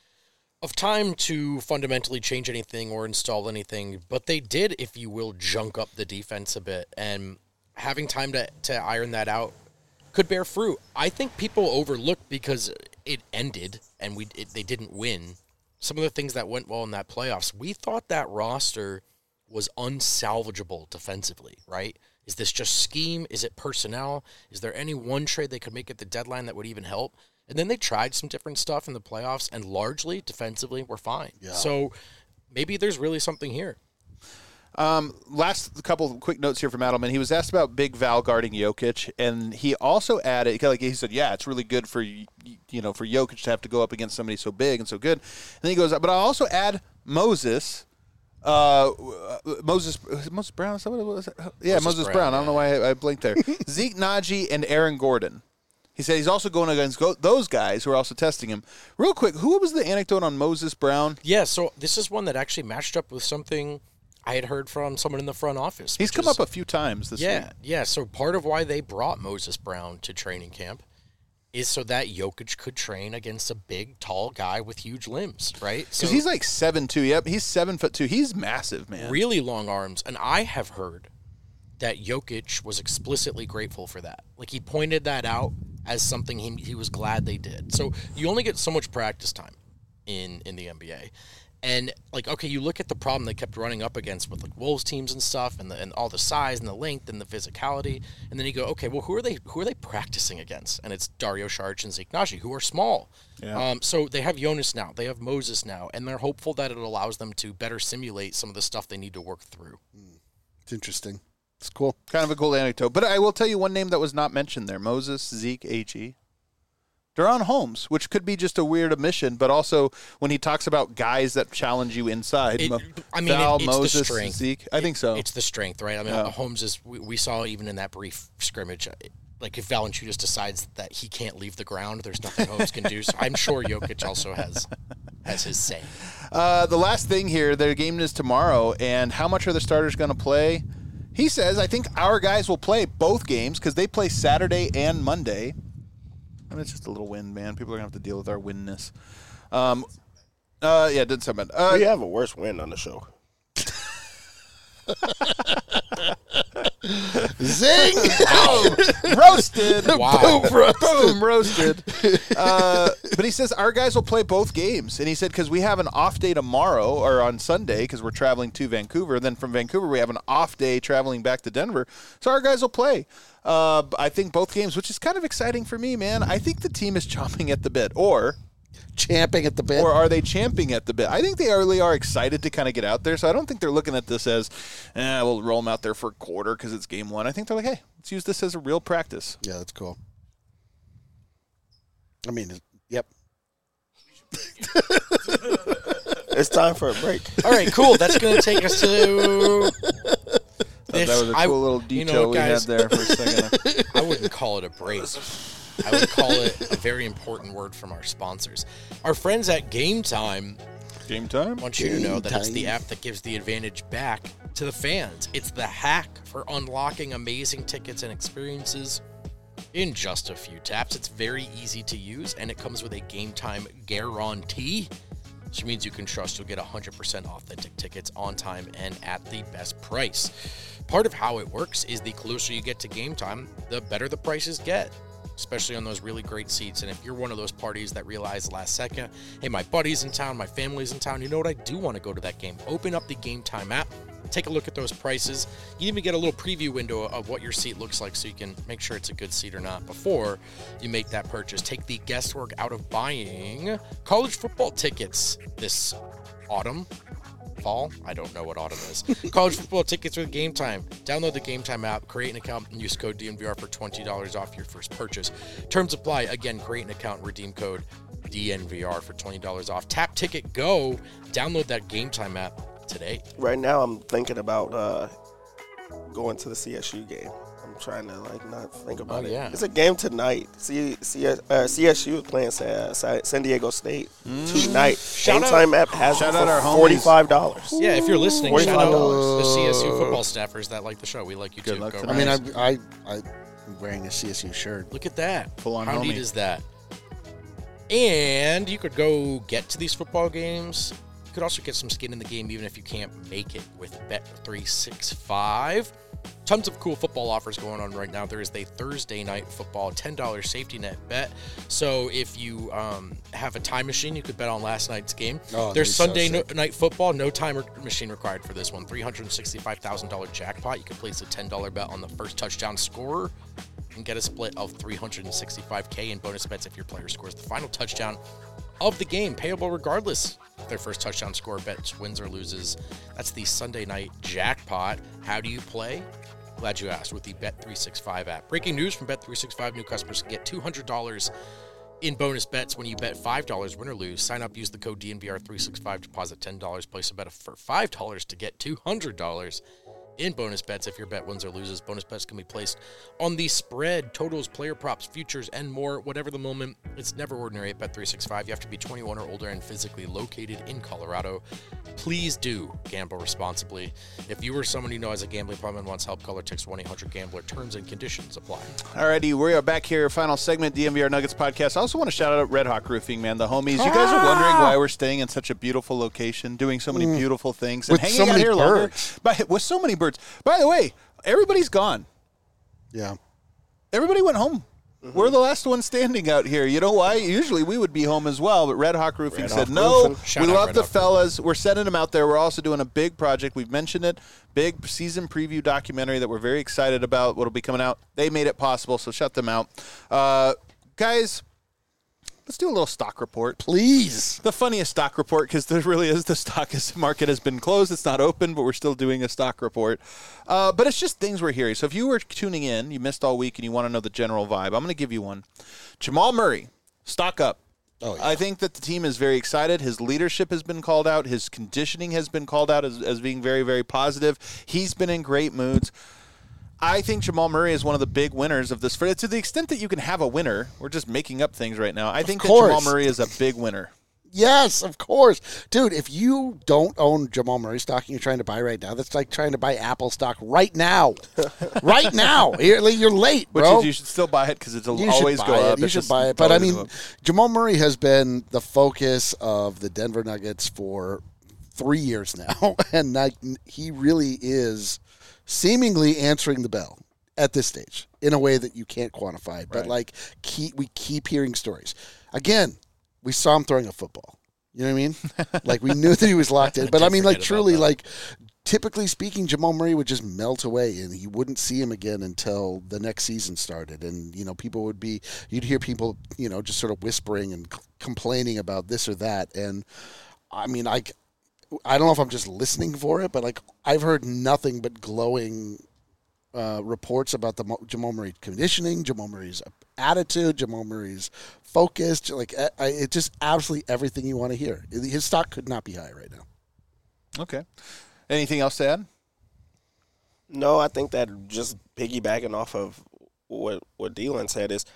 S3: of time to fundamentally change anything or install anything, but they did, if you will, junk up the defense a bit, and having time to, to iron that out could bear fruit. I think people overlooked because it ended and we it, they didn't win. Some of the things that went well in that playoffs, we thought that roster was unsalvageable defensively, right? Is this just scheme? Is it personnel? Is there any one trade they could make at the deadline that would even help? And then they tried some different stuff in the playoffs, and largely, defensively, we're fine. Yeah. So maybe there's really something here.
S1: Um, last couple of quick notes here from Adelman. He was asked about Big Val guarding Jokic, and he also added, like he said, yeah, it's really good for you know for Jokic to have to go up against somebody so big and so good. And then he goes, but I'll also add Moses. Uh, Moses Moses Brown. Is that what it was? Yeah, Moses, Moses Brown. Brown. I don't know why I, I blinked there. Zeke Naji and Aaron Gordon. He said he's also going against go- those guys who are also testing him. Real quick, who was the anecdote on Moses Brown?
S3: Yeah, so this is one that actually matched up with something I had heard from someone in the front office.
S1: He's come is, up a few times this
S3: yeah,
S1: week.
S3: Yeah, so part of why they brought Moses Brown to training camp is so that Jokic could train against a big, tall guy with huge limbs, right?
S1: Because so, he's like seven two. Yep, he's seven foot two. He's massive, man.
S3: Really long arms. And I have heard that Jokic was explicitly grateful for that. Like, he pointed that out as something he he was glad they did. So you only get so much practice time in, in the N B A. And, like, okay, you look at the problem they kept running up against with, like, Wolves teams and stuff, and the, and all the size and the length and the physicality, and then you go, okay, well, who are they who are they practicing against? And it's Dario Saric and Zeke Naji, who are small. Yeah. Um, so they have Jonas now, they have Moses now, and they're hopeful that it allows them to better simulate some of the stuff they need to work through.
S2: It's interesting. It's cool.
S1: Kind of a cool anecdote. But I will tell you one name that was not mentioned there, Moses, Zeke, H E. DaRon Holmes, which could be just a weird omission, but also when he talks about guys that challenge you inside,
S3: It,
S1: Mo-
S3: I mean,
S1: Val,
S3: it, it's
S1: Moses,
S3: the strength.
S1: Zeke. I
S3: It-
S1: think so.
S3: It's the strength, right? I mean,
S1: Yeah.
S3: Holmes is. We, we saw even in that brief scrimmage, uh, like if Valanciunas decides that he can't leave the ground, there's nothing Holmes can do. So I'm sure Jokic also has has his say.
S1: Uh, the last thing here, their game is tomorrow, and how much are the starters going to play? He says, I think our guys will play both games because they play Saturday and Monday. I mean, it's just a little win, man. People are going to have to deal with our winness. Um, uh, yeah, did something. Uh,
S4: We have a worse win on the show.
S2: Zing!
S1: Boom! Roasted.
S3: Wow.
S1: Boom, roasted. Boom, roasted. Uh, but he says our guys will play both games. And he said because we have an off day tomorrow or on Sunday because we're traveling to Vancouver. And then from Vancouver, we have an off day traveling back to Denver. So our guys will play. Uh, I think both games, which is kind of exciting for me, man. I think the team is chomping at the bit. Or...
S2: Champing at the bit.
S1: Or are they champing at the bit? I think they really are excited to kind of get out there. So I don't think they're looking at this as, eh, we'll roll them out there for a quarter because it's game one. I think they're like, hey, let's use this as a real practice.
S2: Yeah, that's cool. I mean, yep.
S4: It's time for a break.
S3: All right, cool. That's going to take us to.
S1: That was a cool
S3: I-
S1: little
S3: you
S1: detail
S3: know,
S1: we
S3: guys,
S1: had there for a second.
S3: I wouldn't call it a break. I would call it a very important word from our sponsors. Our friends at Game Time
S1: Game time?
S3: want you to know that it's the
S2: Game
S3: app that gives the advantage back to the fans. It's the hack for unlocking amazing tickets and experiences in just a few taps. It's very easy to use, and it comes with a Game Time guarantee, which means you can trust you'll get one hundred percent authentic tickets on time and at the best price. Part of how it works is the closer you get to game time, the better the prices get, especially on those really great seats. And if you're one of those parties that realize last second, hey, my buddy's in town, my family's in town, you know what, I do want to go to that game. Open up the Game Time app, take a look at those prices. You even get a little preview window of what your seat looks like so you can make sure it's a good seat or not before you make that purchase. Take the guesswork out of buying college football tickets this autumn. Fall? I don't know what autumn is. College football tickets with Game Time. Download the Game Time app, create an account, and use code D N V R for twenty dollars off your first purchase. Terms apply. Again, create an account, redeem code D N V R for twenty dollars off. Tap Ticket Go. Download that Game Time app today.
S4: Right now, I'm thinking about uh, going to the C S U game. I'm trying to like not think about
S3: Oh,
S4: it.
S3: yeah.
S4: It's a game tonight. C- C- uh, C S U is playing Sa- Sa- San Diego State tonight.
S3: Shout
S4: Game
S3: out-
S4: Time app has
S1: Shout
S4: it
S1: out
S4: for
S1: our homies.
S4: forty-five dollars.
S3: Yeah, if you're listening, shout out
S4: forty-five dollars.
S3: the C S U football staffers that like the show. We like you
S1: Good
S3: too.
S1: luck
S3: Go
S1: tonight.
S2: I
S3: Rams.
S2: mean, I, I, I'm wearing a C S U shirt.
S3: Look at that.
S1: Full on
S3: How neat
S1: homie.
S3: is that? And you could go get to these football games. You could also get some skin in the game even if you can't make it with Bet three sixty-five. Tons of cool football offers going on right now. There is a Thursday night football ten dollars safety net bet. So if you um, have a time machine, you could bet on last night's game.
S2: Oh,
S3: There's
S2: that'd be so
S3: Sunday no-
S2: sick.
S3: night football, no timer machine required for this one. three hundred sixty-five thousand dollars jackpot. You can place a ten dollars bet on the first touchdown scorer and get a split of three hundred sixty-five thousand dollars in bonus bets if your player scores the final touchdown of the game, payable regardless if their first touchdown score bets wins or loses. That's the Sunday night jackpot. How do you play? Glad you asked. With the Bet three sixty-five app. Breaking news from Bet three sixty-five: new customers can get two hundred dollars in bonus bets when you bet five dollars, win or lose. Sign up, use the code D N V R three sixty-five, deposit ten dollars, place a bet for five dollars to get two hundred dollars in bonus bets if your bet wins or loses. Bonus bets can be placed on the spread, totals, player props, futures, and more. Whatever the moment, it's never ordinary at Bet three sixty-five. You have to be twenty-one or older and physically located in Colorado. Please do gamble responsibly. If you or someone you know has a gambling problem and wants help, call or text one eight hundred gambler. Terms and conditions apply.
S1: Alrighty, we are back here. Final segment, D N V R Nuggets podcast. I also want to shout out Red Hawk Roofing, man, the homies. You guys are wondering why we're staying in such a beautiful location, doing so many beautiful things, and
S2: With
S1: hanging
S2: so
S1: out
S2: many
S1: here
S2: birds.
S1: longer. By, with so many birds. By the way, everybody's gone.
S2: Yeah.
S1: Everybody went home. We're the last one standing out here. You know why? Usually we would be home as well, but Red Hawk Roofing
S4: Red
S1: said,
S4: Hawk
S1: no,
S4: Roofing.
S3: Shout
S1: we
S3: out
S1: love
S3: Red
S1: the
S3: Hawk
S1: fellas. We're sending them out there. We're also doing a big project. We've mentioned it. Big season preview documentary that we're very excited about. What'll be coming out. They made it possible, so shut them out. Uh, guys, let's do a little stock report.
S2: Please.
S1: The funniest stock report, because there really is, the stock is, market has been closed. It's not open, but we're still doing a stock report. Uh, but it's just things we're hearing. So if you were tuning in, you missed all week, and you want to know the general vibe, I'm going to give you one. Jamal Murray stock up.
S2: Oh, yeah.
S1: I think that the team is very excited. His leadership has been called out. His conditioning has been called out as, as being very, very positive. He's been in great moods. I think Jamal Murray is one of the big winners of this. For to the extent that you can have a winner, we're just making up things right now. I think that Jamal Murray is a big winner.
S2: Yes, of course. Dude, if you don't own Jamal Murray stock and you're trying to buy right now, that's like trying to buy Apple stock right now. right now. You're, you're late, bro.
S1: Which is, you should still buy it because it'll
S2: you
S1: always go
S2: it.
S1: up.
S2: You
S1: It's
S2: should
S1: just,
S2: buy it. But, I mean,
S1: go
S2: Jamal Murray has been the focus of the Denver Nuggets for three years now. And like, he really is seemingly answering the bell at this stage in a way that you can't quantify. But,
S1: Right.
S2: like, keep, we keep hearing stories. Again, we saw him throwing a football. You know what I mean? Like, we knew that he was locked in. But, I mean, like, truly, like, typically speaking, Jamal Murray would just melt away, and you wouldn't see him again until the next season started. And, you know, people would be – you'd hear people, you know, just sort of whispering and c- complaining about this or that. And, I mean, I, I don't know if I'm just listening for it, but, like, I've heard nothing but glowing uh, reports about the Mo- Jamal Murray conditioning, Jamal Murray's attitude, Jamal Murray's focus. Like, I, I, it's just absolutely everything you want to hear. His stock could not be higher right now.
S1: Okay. Anything else to add?
S4: No, I think that just piggybacking off of what what Dylan said is,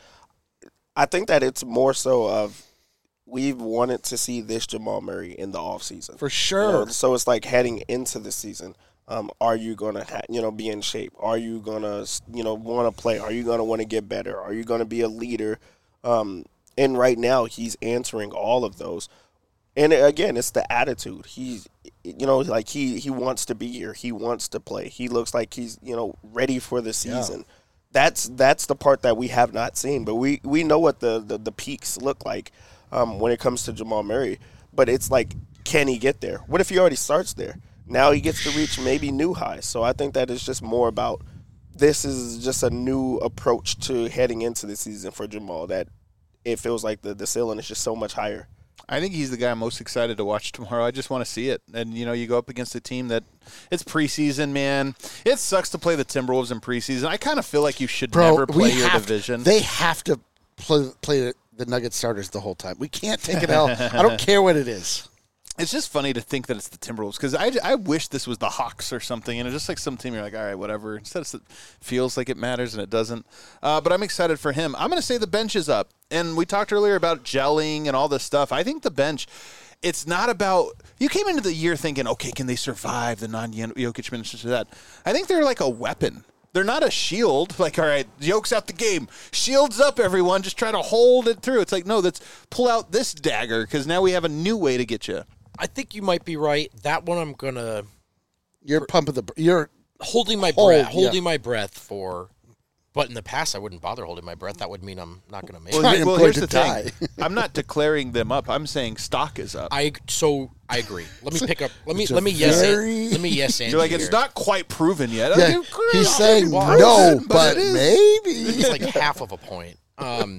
S4: I think that it's more so of we've wanted to see this Jamal Murray in the offseason.
S2: For sure.
S4: You know, so it's like heading into the season. Um, are you going to, ha- you know, be in shape? Are you going to, you know, want to play? Are you going to want to get better? Are you going to be a leader? Um, and right now he's answering all of those. And again, it's the attitude. He's, you know, like he, he wants to be here. He wants to play. He looks like he's, you know, ready for the season. Yeah. That's that's the part that we have not seen. But we, we know what the, the, the peaks look like um, when it comes to Jamal Murray. But it's like, can he get there? What if he already starts there? Now he gets to reach maybe new highs. So I think that it's just more about this is just a new approach to heading into the season for Jamal, that it feels like the, the ceiling is just so much higher.
S1: I think he's the guy I'm most excited to watch tomorrow. I just want to see it. And, you know, you go up against a team that it's preseason, man. It sucks to play the Timberwolves in preseason. I kind of feel like you should
S2: Bro,
S1: never play your
S2: have,
S1: division.
S2: They have to play, play the Nuggets starters the whole time. We can't take it out. I don't care what it is.
S1: It's just funny to think that it's the Timberwolves because I, I wish this was the Hawks or something, and it's just like some team you're like, all right, whatever. Instead, it feels like it matters and it doesn't. Uh, but I'm excited for him. I'm going to say the bench is up, and we talked earlier about gelling and all this stuff. I think the bench, it's not about – you came into the year thinking, okay, can they survive the non-Jokic minutes to that? I think they're like a weapon. They're not a shield. Like, all right, Jokic out the game. Shields up, everyone. Just try to hold it through. It's like, no, let's pull out this dagger because now we have a new way to get you.
S3: I think you might be right. That one I'm going to...
S2: You're pumping the... You're
S3: holding my
S2: hold,
S3: breath. Holding
S2: yeah.
S3: my breath for... But in the past, I wouldn't bother holding my breath. That would mean I'm not going to make
S1: well,
S3: it.
S2: I'm
S1: well
S2: going
S1: here's
S2: to
S1: the
S2: die.
S1: thing. I'm not declaring them up. I'm saying stock is up.
S3: I so I agree. Let me pick up. Let me
S2: It's a
S3: let me yes.
S2: very-
S3: An, let me yes.
S1: You're like,
S3: here.
S1: it's not quite proven yet.
S2: Yeah,
S1: Okay,
S2: he's
S1: I'll
S2: saying
S1: give you
S2: no,
S1: proven,
S2: but
S1: it is.
S2: maybe.
S3: It's like half of a point. Um,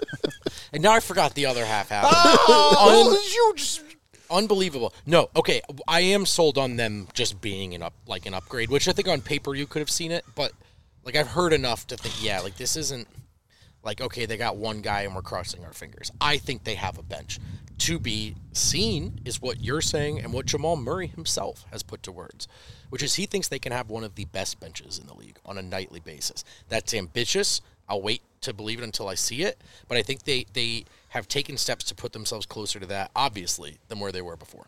S3: and now I forgot the other half happened.
S1: Oh,
S3: Un-
S1: you just...
S3: Unbelievable. No, okay, I am sold on them just being an up like an upgrade, which I think on paper you could have seen it, but like I've heard enough to think, yeah, like this isn't like, okay, they got one guy and we're crossing our fingers. I think they have a bench. To be seen is what you're saying and what Jamal Murray himself has put to words, which is he thinks they can have one of the best benches in the league on a nightly basis. That's ambitious. I'll wait to believe it until I see it, but I think they, they have taken steps to put themselves closer to that, obviously, than where they were before.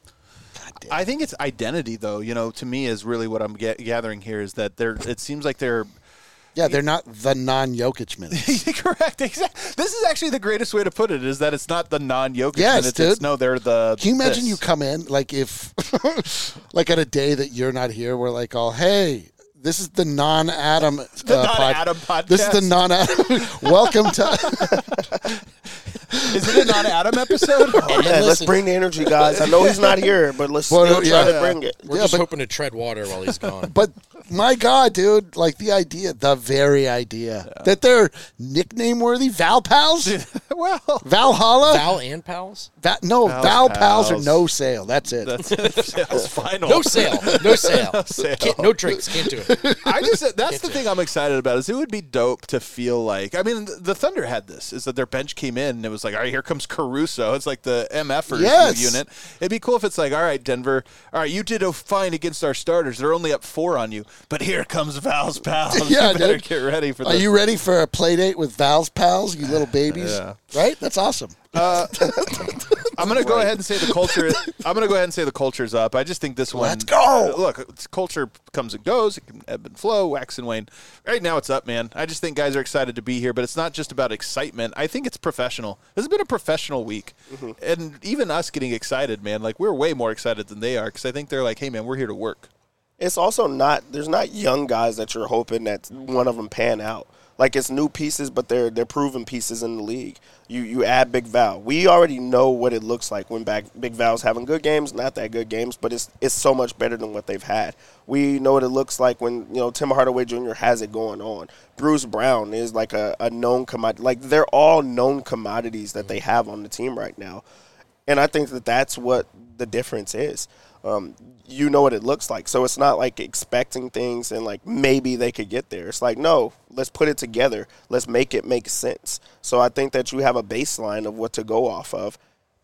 S1: I think it's identity, though. You know, to me, is really what I'm ga- gathering here is that they're. It seems like they're.
S2: Yeah, they're not the non-Jokic minutes.
S1: Correct. Exactly. This is actually the greatest way to put it: is that it's not the non-Jokic
S2: Yes,
S1: minutes.
S2: dude.
S1: It's, no, they're the.
S2: Can you imagine
S1: this.
S2: you come in, like if, like at a day that you're not here, we're like, all, hey, this is the non-Adam uh,
S1: The non-Adam podcast.
S2: This is the non-Adam. Welcome to.
S1: Is it a non-Adam episode?
S4: Oh, man, let's
S3: listen-
S4: bring the energy, guys. I know he's not here, but let's
S2: Well,
S4: still try
S2: yeah.
S4: to bring it.
S3: We're
S2: Yeah,
S3: just
S2: but-
S3: hoping to tread water while he's gone.
S2: But My God, dude! Like the idea, the very idea yeah. that they're nickname worthy. Val Pals.
S1: Well,
S2: Valhalla.
S3: Val and Pals.
S2: Va- no,
S1: Val's
S2: Val
S1: Pals.
S2: Pals are no sale. That's it.
S1: That's it. Sales final.
S3: No sale. No sale.
S1: no, sale.
S3: Can't, no drinks. Can't do it.
S1: I just that's
S3: Can't
S1: the thing it. I'm excited about is it would be dope to feel like I mean the Thunder had this is that their bench came in and it was like all right here comes Caruso. It's like the M Fers
S2: yes.
S1: unit. It'd be cool if it's like all right Denver, all right you did a fine against our starters. They're only up four on you, but here comes Val's Pals.
S2: Yeah,
S1: you better
S2: dude.
S1: get ready for.
S2: Are
S1: this.
S2: you ready for a play date with Val's Pals? You little babies,
S1: yeah.
S2: right? That's awesome.
S1: Uh, I'm gonna go right. ahead and say the culture. I'm gonna go ahead and say the culture's up. I just think this one.
S2: Let's go.
S1: Uh, look, it's, culture comes and goes. It can ebb and flow, wax and wane. Right now, it's up, man. I just think guys are excited to be here, but it's not just about excitement. I think it's professional. This has been a professional week, mm-hmm. and even us getting excited, man. Like we're way more excited than they are because I think they're like, "Hey, man, we're here to work."
S4: It's also not. There's not young guys that you're hoping that one of them pan out. Like it's new pieces, but they're they're proven pieces in the league. You you add Big Val. We already know what it looks like when back Big Val's having good games, not that good games, but it's it's so much better than what they've had. We know what it looks like when you know Tim Hardaway Junior has it going on. Bruce Brown is like a, a known commodity. Like they're all known commodities that they have on the team right now, and I think that that's what the difference is. Um, you know what it looks like. So it's not like expecting things and like maybe they could get there. It's like, no, let's put it together. Let's make it make sense. So I think that you have a baseline of what to go off of.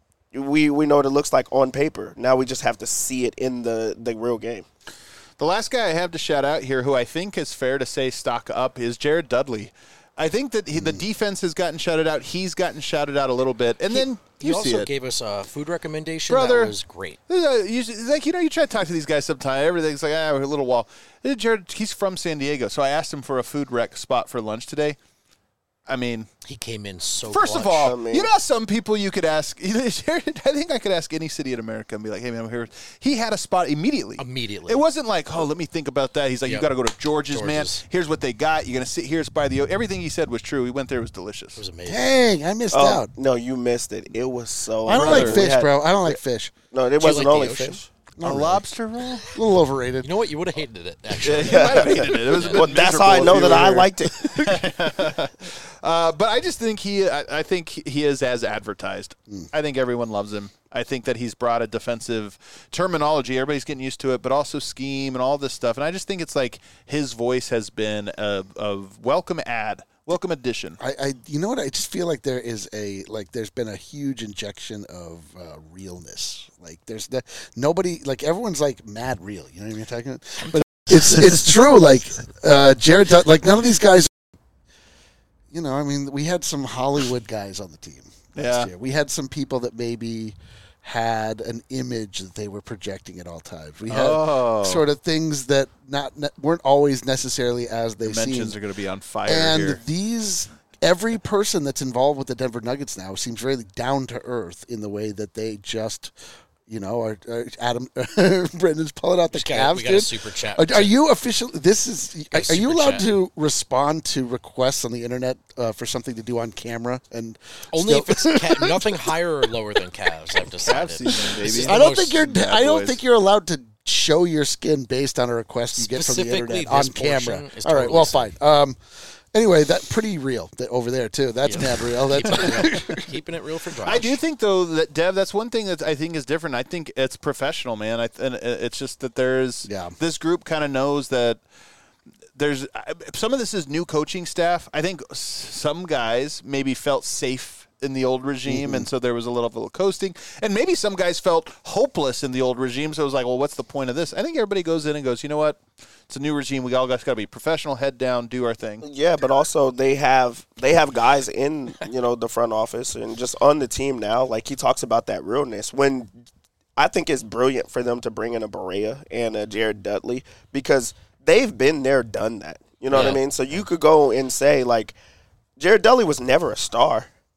S4: We we know what it looks like on paper. Now we just have to see it in the, the real game.
S1: The last guy I have to shout out here who I think is fair to say stock up is Jared Dudley. I think that he, the defense has gotten shouted out. He's gotten shouted out a little bit. And
S3: he,
S1: then
S3: you
S1: you
S3: also
S1: see it.
S3: gave us a food recommendation
S1: Brother,
S3: that was great.
S1: Uh, you, like, you know, you try to talk to these guys sometime. Everything's like, ah, a little wall. Jared, he's from San Diego. So I asked him for a food rec spot for lunch today. I mean,
S3: he came in so
S1: First
S3: clutch.
S1: of all,
S4: I mean,
S1: you know some people you could ask. I think I could ask any city in America and be like, hey, man, I'm here. He had a spot immediately.
S3: Immediately.
S1: It wasn't like, oh, let me think about that. He's like,
S3: Yep.
S1: you got to go to George's,
S3: George's,
S1: man. Here's what they got. You're going to sit here. It's by the – everything he said was true. We went there. It was delicious.
S3: It was amazing.
S2: Dang, I missed
S4: Oh,
S2: out.
S4: no, you missed it. It was so
S2: I don't
S1: Brother,
S2: like
S4: we
S2: fish,
S4: had-
S2: bro. I don't like fish.
S4: No, it
S3: you
S4: wasn't
S3: like the
S4: only
S3: ocean?
S4: fish.
S1: A lobster roll?
S2: A little overrated.
S3: You know what? You would have hated it, actually.
S1: You might have hated it. It was a bit
S4: Well, that's how I
S1: miserable
S4: know
S1: if
S4: that
S1: you
S4: I
S1: were-
S4: liked it.
S1: Uh, but I just think he, I, I think he is as advertised.
S2: Mm.
S1: I think everyone loves him. I think that he's brought a defensive terminology. Everybody's getting used to it, but also scheme and all this stuff. And I just think it's like his voice has been a, a welcome ad, welcome addition.
S2: I, I, you know what? I just feel like there is a like. There's been a huge injection of uh, realness. Like there's the, nobody like everyone's like mad real. You know what I mean? Talking about? But it's it's true. Like uh, Jared, Dud- like none of these guys. You know, I mean, we had some Hollywood guys on the team last
S1: Yeah.
S2: year. We had some people that maybe had an image that they were projecting at all times. We had
S1: Oh.
S2: sort of things that not ne- weren't always necessarily as they
S1: Dimensions
S2: seemed.
S1: are going to be on fire
S2: And
S1: here.
S2: these, every person that's involved with the Denver Nuggets now seems really down to earth in the way that they just, you know, are, are Adam, Brendan's pulling out the
S3: Just got-
S2: calves,
S3: we got a
S2: dude.
S3: super chat.
S2: Are, are you officially? This is.
S3: Got a
S2: Are you
S3: super
S2: allowed
S3: chat.
S2: to respond to requests on the internet uh, for something to do on camera? And
S3: Only
S2: still-
S3: if it's ca- nothing higher or lower than calves, I've decided.
S1: Cavs season, baby.
S3: This is the
S2: I don't
S3: most-
S2: think you're.
S1: bad
S2: I don't
S1: boys.
S2: think you're allowed to show your skin based on a request you get from the
S3: Specifically,
S2: internet on
S3: this portion
S2: camera.
S3: is
S2: All right.
S3: totally
S2: Well,
S3: safe.
S2: fine. Um. Anyway, that pretty real that over there too. That's
S3: Yeah.
S2: mad real. That's
S3: Keeping it, keeping it real for Josh.
S1: I do think, though, that, Dev, that's one thing that I think is different. I think it's professional, man. I, and it's just that there's
S2: Yeah.
S1: this group kind of knows that there's some of this is new coaching staff. I think s- some guys maybe felt safe in the old regime,
S2: Mm-hmm.
S1: and so there was a little, little coasting. And maybe some guys felt hopeless in the old regime, so it was like, well, what's the point of this? I think everybody goes in and goes, you know what? It's a new regime. We all got to be professional, head down, do our thing.
S4: Yeah, but also they have they have guys in you know the front office and just on the team now. Like he talks about that realness. When I think it's brilliant for them to bring in a Barea and a Jared Dudley because they've been there, done that. You know what I
S3: Yeah.
S4: mean? So you could go and say like Jared Dudley was never a star.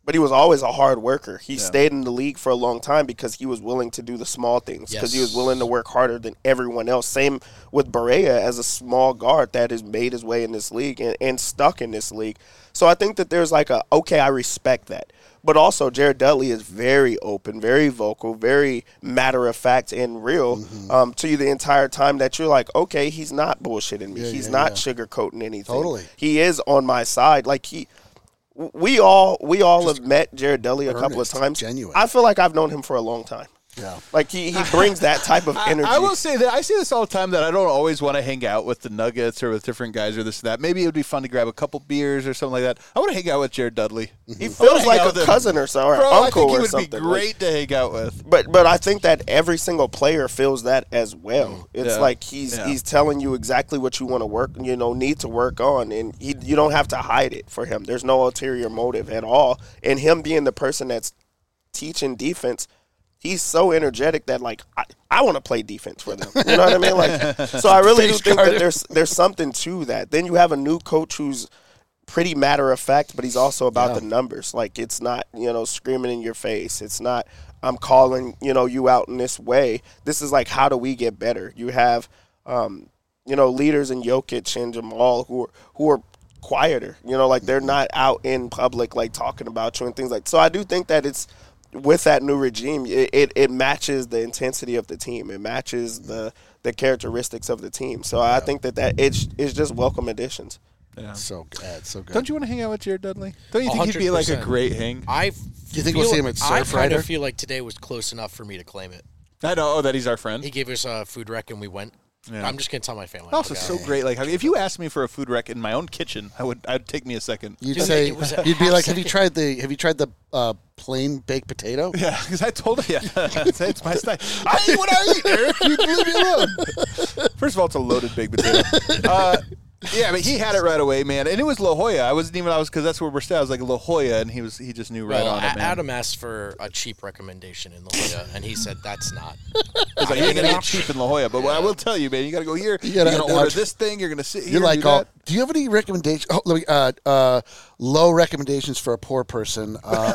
S4: but he was always a hard worker. He
S1: Yeah.
S4: stayed in the league for a long time because he was willing to do the small things, because he was
S3: Yes.
S4: willing to work harder than everyone else. Same with Barea as a small guard that has made his way in this league and, and stuck in this league. So I think that there's like a, okay, I respect that. But also, Jared Dudley is very open, very vocal, very matter-of-fact and real
S2: Mm-hmm.
S4: um, to you the entire time that you're like, okay, he's not bullshitting me.
S2: Yeah,
S4: he's
S2: yeah,
S4: not
S2: yeah.
S4: sugarcoating anything.
S2: Totally.
S4: He is on my side. Like, he – we all we all have met Jared Dudley a couple of
S2: earnest,
S4: times.
S2: genuine.
S4: I feel like I've known him for a long time.
S2: Yeah.
S4: Like, he, he brings that type of
S1: I,
S4: energy.
S1: I will say that I say this all the time that I don't always want to hang out with the Nuggets or with different guys or this and that. Maybe it would be fun to grab a couple beers or something like that. I want to hang out with Jared Dudley.
S4: He
S1: I
S4: feels
S1: wanna hang
S4: like
S1: out
S4: a
S1: with him.
S4: cousin or so, or
S1: Bro, I
S4: uncle
S1: think he
S4: or
S1: would
S4: something.
S1: be
S4: Like,
S1: great to hang out with.
S4: But but I think that every single player feels that as well. It's
S1: Yeah.
S4: like he's
S1: Yeah.
S4: he's telling you exactly what you want to work, you know, need to work on, and he, you don't have to hide it for him. There's no ulterior motive at all. And him being the person that's teaching defense, he's so energetic that like I, I want to play defense for them. You know what I mean? Like, so I really do
S2: Face
S4: think
S2: guard.
S4: that there's there's something to that. Then you have a new coach who's pretty matter of fact, but he's also about
S2: Yeah.
S4: the numbers. Like, it's not, you know, screaming in your face. It's not, I'm calling, you know, you out in this way. This is like, how do we get better? You have, um, you know, leaders in Jokic and Jamal who are, who are quieter, you know, like they're not out in public, like talking about you and things like, so I do think that it's, with that new regime, it, it, it matches the intensity of the team. It matches the, the characteristics of the team. So I think that, that it's, it's just welcome additions.
S1: Yeah.
S2: So good. So good.
S1: Don't you want to hang out with Jared Dudley? Don't you think he'd be like a
S3: one hundred percent.
S1: great hang?
S3: I
S2: you think we'll see him at
S3: I
S2: Surf
S3: kind
S2: Rider?
S3: of feel like today was close enough for me to claim it.
S1: I know oh, that he's our friend.
S3: He gave us a food rec and we went.
S1: Yeah.
S3: I'm just gonna tell my family.
S1: Also,
S3: I'll
S1: so
S3: go.
S1: great. Like, if you asked me for a food rec in my own kitchen, I would. I'd take me a second.
S2: You'd
S3: Dude,
S2: say
S3: it was a
S2: you'd be
S3: half
S2: like, "Have you
S3: second.
S2: tried the Have you tried the uh, plain baked potato?"
S1: Yeah, because I told him, yeah, it's, it's my style. I eat what I eat, Eric. You leave me alone. First of all, it's a loaded baked potato. Uh, yeah, but he had it right away, man. And it was La Jolla. I wasn't even, I was, because that's where we're staying. I was like, La Jolla, and he was, he just knew right
S3: Well,
S1: on
S3: A-
S1: it, man.
S3: Adam asked for a cheap recommendation in La Jolla, and he said that's not.
S1: He's like, you're going to get cheap in La Jolla. But what I will tell you, man, you got to go here. You
S2: gotta-
S1: are going to
S2: no,
S1: order
S2: it's-
S1: this thing. You're going to sit here
S2: You're like,
S1: do
S2: all,
S1: that.
S2: do you have any recommendations? Oh, let me, uh, uh, low recommendations for a poor person uh,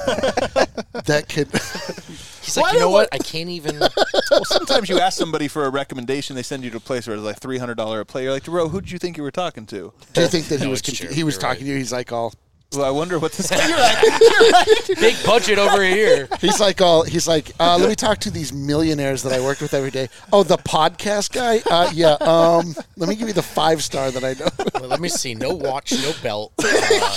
S2: that could.
S3: He's
S1: Why
S3: like, you
S1: do
S3: know
S1: I-
S3: what? I can't even.
S1: Well, sometimes you ask somebody for a recommendation, they send you to a place where it's like three hundred dollars a plate. You're like, bro, who did you think you were talking to?
S2: Do you think that he
S3: No,
S2: was
S3: it's
S2: confu-
S3: true.
S2: he was
S3: You're
S2: talking
S3: right.
S2: to you? He's like all.
S1: Well, I wonder what this guy. You're right. You're right.
S3: Big budget over here.
S2: He's like all. He's like, uh, let me talk to these millionaires that I worked with every day. Oh, the podcast guy. Uh, yeah. Um, let me give you the five star that I know.
S3: Well, let me see. No watch, no belt. Uh,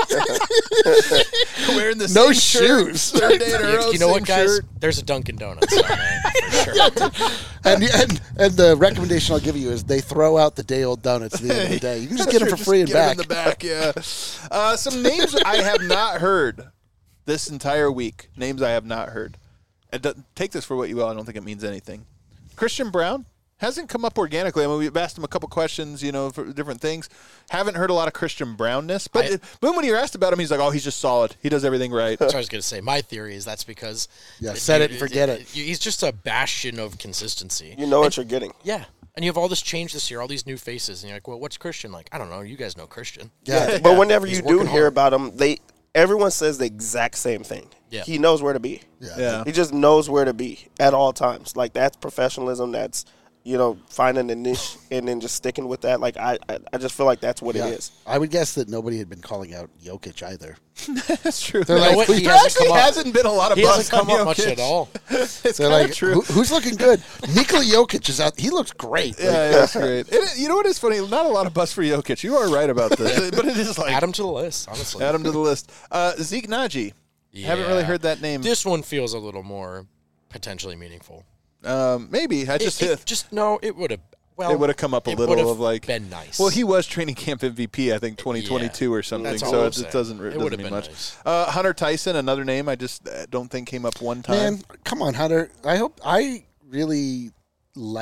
S1: Wearing the
S2: No
S1: same shirt,
S2: shoes.
S1: third day in a row,
S3: you know
S1: same
S3: what, guys?
S1: shirt.
S3: There's a Dunkin' Donuts on there for sure.
S2: And, and and the recommendation I'll give you is they throw out the day old donuts at the end of the day. You can just get them
S1: Sure,
S2: for free and
S1: get 'em
S2: back.
S1: in the back, yeah. Uh, some names I have not heard this entire week. Names I have not heard. And do- take this for what you will. I don't think it means anything. Christian Brown hasn't come up organically. I mean, we've asked him a couple questions, you know, for different things. Haven't heard a lot of Christian Brownness. But,
S3: I-
S1: it, but when you're asked about him, he's like, oh, he's just solid. He does everything right.
S3: That's what I was going to say. My theory is that's because.
S2: Yeah, set it and forget it.
S3: He's just a bastion of consistency.
S4: You know what you're getting.
S3: Yeah. And you have all this change this year, all these new faces, and you're like, well, what's Christian like? I don't know. You guys know Christian.
S2: Yeah.
S4: But whenever
S3: He's
S4: you do
S3: working
S4: hear
S3: hard.
S4: about him, they everyone says the exact same thing.
S3: Yeah.
S4: He knows where to be.
S2: Yeah.
S1: Yeah.
S4: He just knows where to be at all times. Like, that's professionalism. That's, you know, finding a niche and then just sticking with that. Like, I, I, I just feel like that's what
S2: Yeah.
S4: it is.
S2: I would guess that nobody had been calling out Jokic either.
S1: That's true.
S2: They're
S1: No,
S2: like,
S3: what?
S1: there
S3: He hasn't
S1: actually
S3: come up.
S1: hasn't been a lot of
S3: He
S1: buzz
S3: hasn't come
S1: on
S3: up much
S1: Jokic.
S3: at all.
S1: It's
S2: They're
S1: kind of
S2: like,
S1: true.
S2: Who, who's looking good? Nikola Jokic is out. He looks great. Like,
S1: Yeah, yeah, that's great. It, you know what is funny? Not a lot of buzz for Jokic. You are right about this, but it is like
S3: Add him to the list, honestly.
S1: add him to the list. Uh, Zeke Naji. Haven't really
S3: Yeah.
S1: heard that name.
S3: This one feels a little more potentially meaningful.
S1: Um, maybe I just
S3: It, it just no, it would have. Well,
S1: it would have come up a
S3: it
S1: little
S3: would've
S1: of like
S3: been nice.
S1: Well, he was training camp M V P, I think twenty twenty-two or something.
S3: That's all
S1: So
S3: I'm
S1: it, it
S3: saying.
S1: doesn't it
S3: It
S1: doesn't
S3: would've
S1: mean
S3: been
S1: much.
S3: nice.
S1: Uh, Hunter Tyson, another name I just uh, don't think came up one time.
S2: man, come on, Hunter. I hope I really liked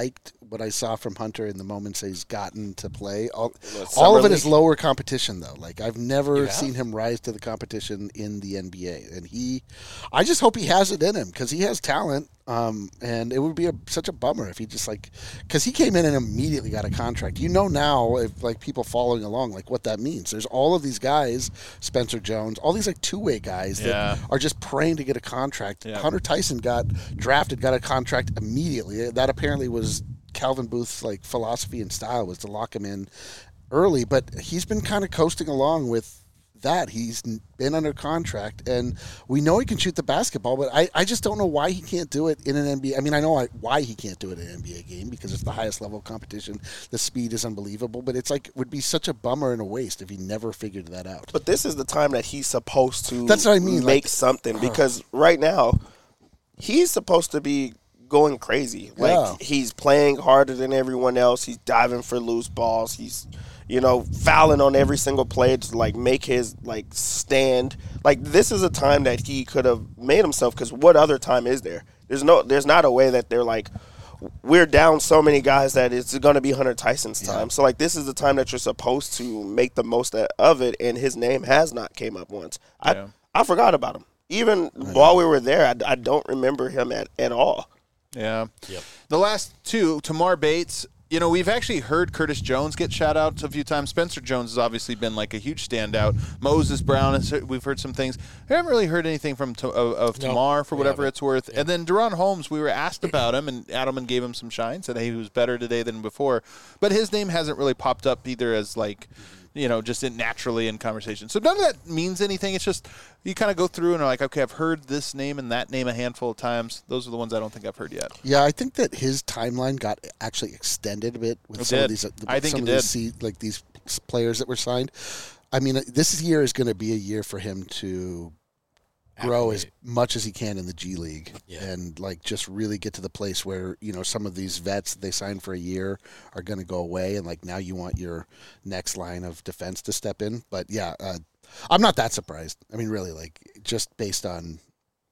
S2: what I saw from Hunter in the moments he's gotten to play. All,
S4: Well,
S2: all of
S4: Summer
S2: it is
S4: League.
S2: lower competition, though. Like, I've
S3: You
S2: never
S3: have?
S2: seen him rise to the competition in the N B A. And he, I just hope he has it in him because he has talent. Um, and it would be a, such a bummer if he just like, because he came in and immediately got a contract. You know now, if like people following along, like what that means. There's all of these guys, Spencer Jones, all these like two way guys that
S1: Yeah.
S2: are just praying to get a contract.
S1: Yeah.
S2: Hunter Tyson got drafted, got a contract immediately. That apparently was Calvin Booth's like philosophy and style, was to lock him in early. But he's been kind of coasting along with that. He's been under contract, and we know he can shoot the basketball, but I, I just don't know why he can't do it in an N B A. I mean, I know I, why he can't do it in an N B A game, because it's the highest level of competition. The speed is unbelievable, but it's like would be such a bummer and a waste if he never figured that out.
S4: But this is the time that he's supposed to
S2: That's what I mean,
S4: make
S2: like-
S4: something, because right now he's supposed to be going crazy. Like
S2: Yeah.
S4: he's playing harder than everyone else. He's diving for loose balls. He's, you know, fouling on every single play to like make his like stand. Like this is a time that he could have made himself, because what other time is there? There's no there's not a way that they're like, we're down so many guys that it's going to be Hunter Tyson's time.
S2: Yeah.
S4: So like this is the time that you're supposed to make the most of it, and his name has not came up once.
S1: Yeah.
S4: I I forgot about him. Even while we were there, I, I don't remember him at, at all.
S1: Yeah.
S3: Yep.
S1: The last two, Tamar Bates, you know, we've actually heard Curtis Jones get shout out a few times. Spencer Jones has obviously been like a huge standout. Moses Brown, has, we've heard some things. I haven't really heard anything from of, of
S3: No,
S1: Tamar for
S3: we
S1: whatever
S3: haven't.
S1: it's worth. And then Deron Holmes, we were asked about him, and Adelman gave him some shine, said hey, he was better today than before. But his name hasn't really popped up either as like, you know, just in naturally in conversation. So none of that means anything. It's just you kind of go through and are like, okay, I've heard this name and that name a handful of times. Those are the ones I don't think I've heard yet.
S2: Yeah, I think that his timeline got actually extended a bit with
S1: It
S2: some
S1: did.
S2: of these. uh,
S1: I think
S2: some
S1: it
S2: of these se- like these players that were signed. I mean, uh, this year is going to be a year for him to grow as
S3: Acclimate.
S2: much as he can in the G League,
S3: Yeah.
S2: and like just really get to the place where you know some of these vets that they signed for a year are going to go away, and like now you want your next line of defense to step in. But yeah, uh, I'm not that surprised. I mean, really, like just based on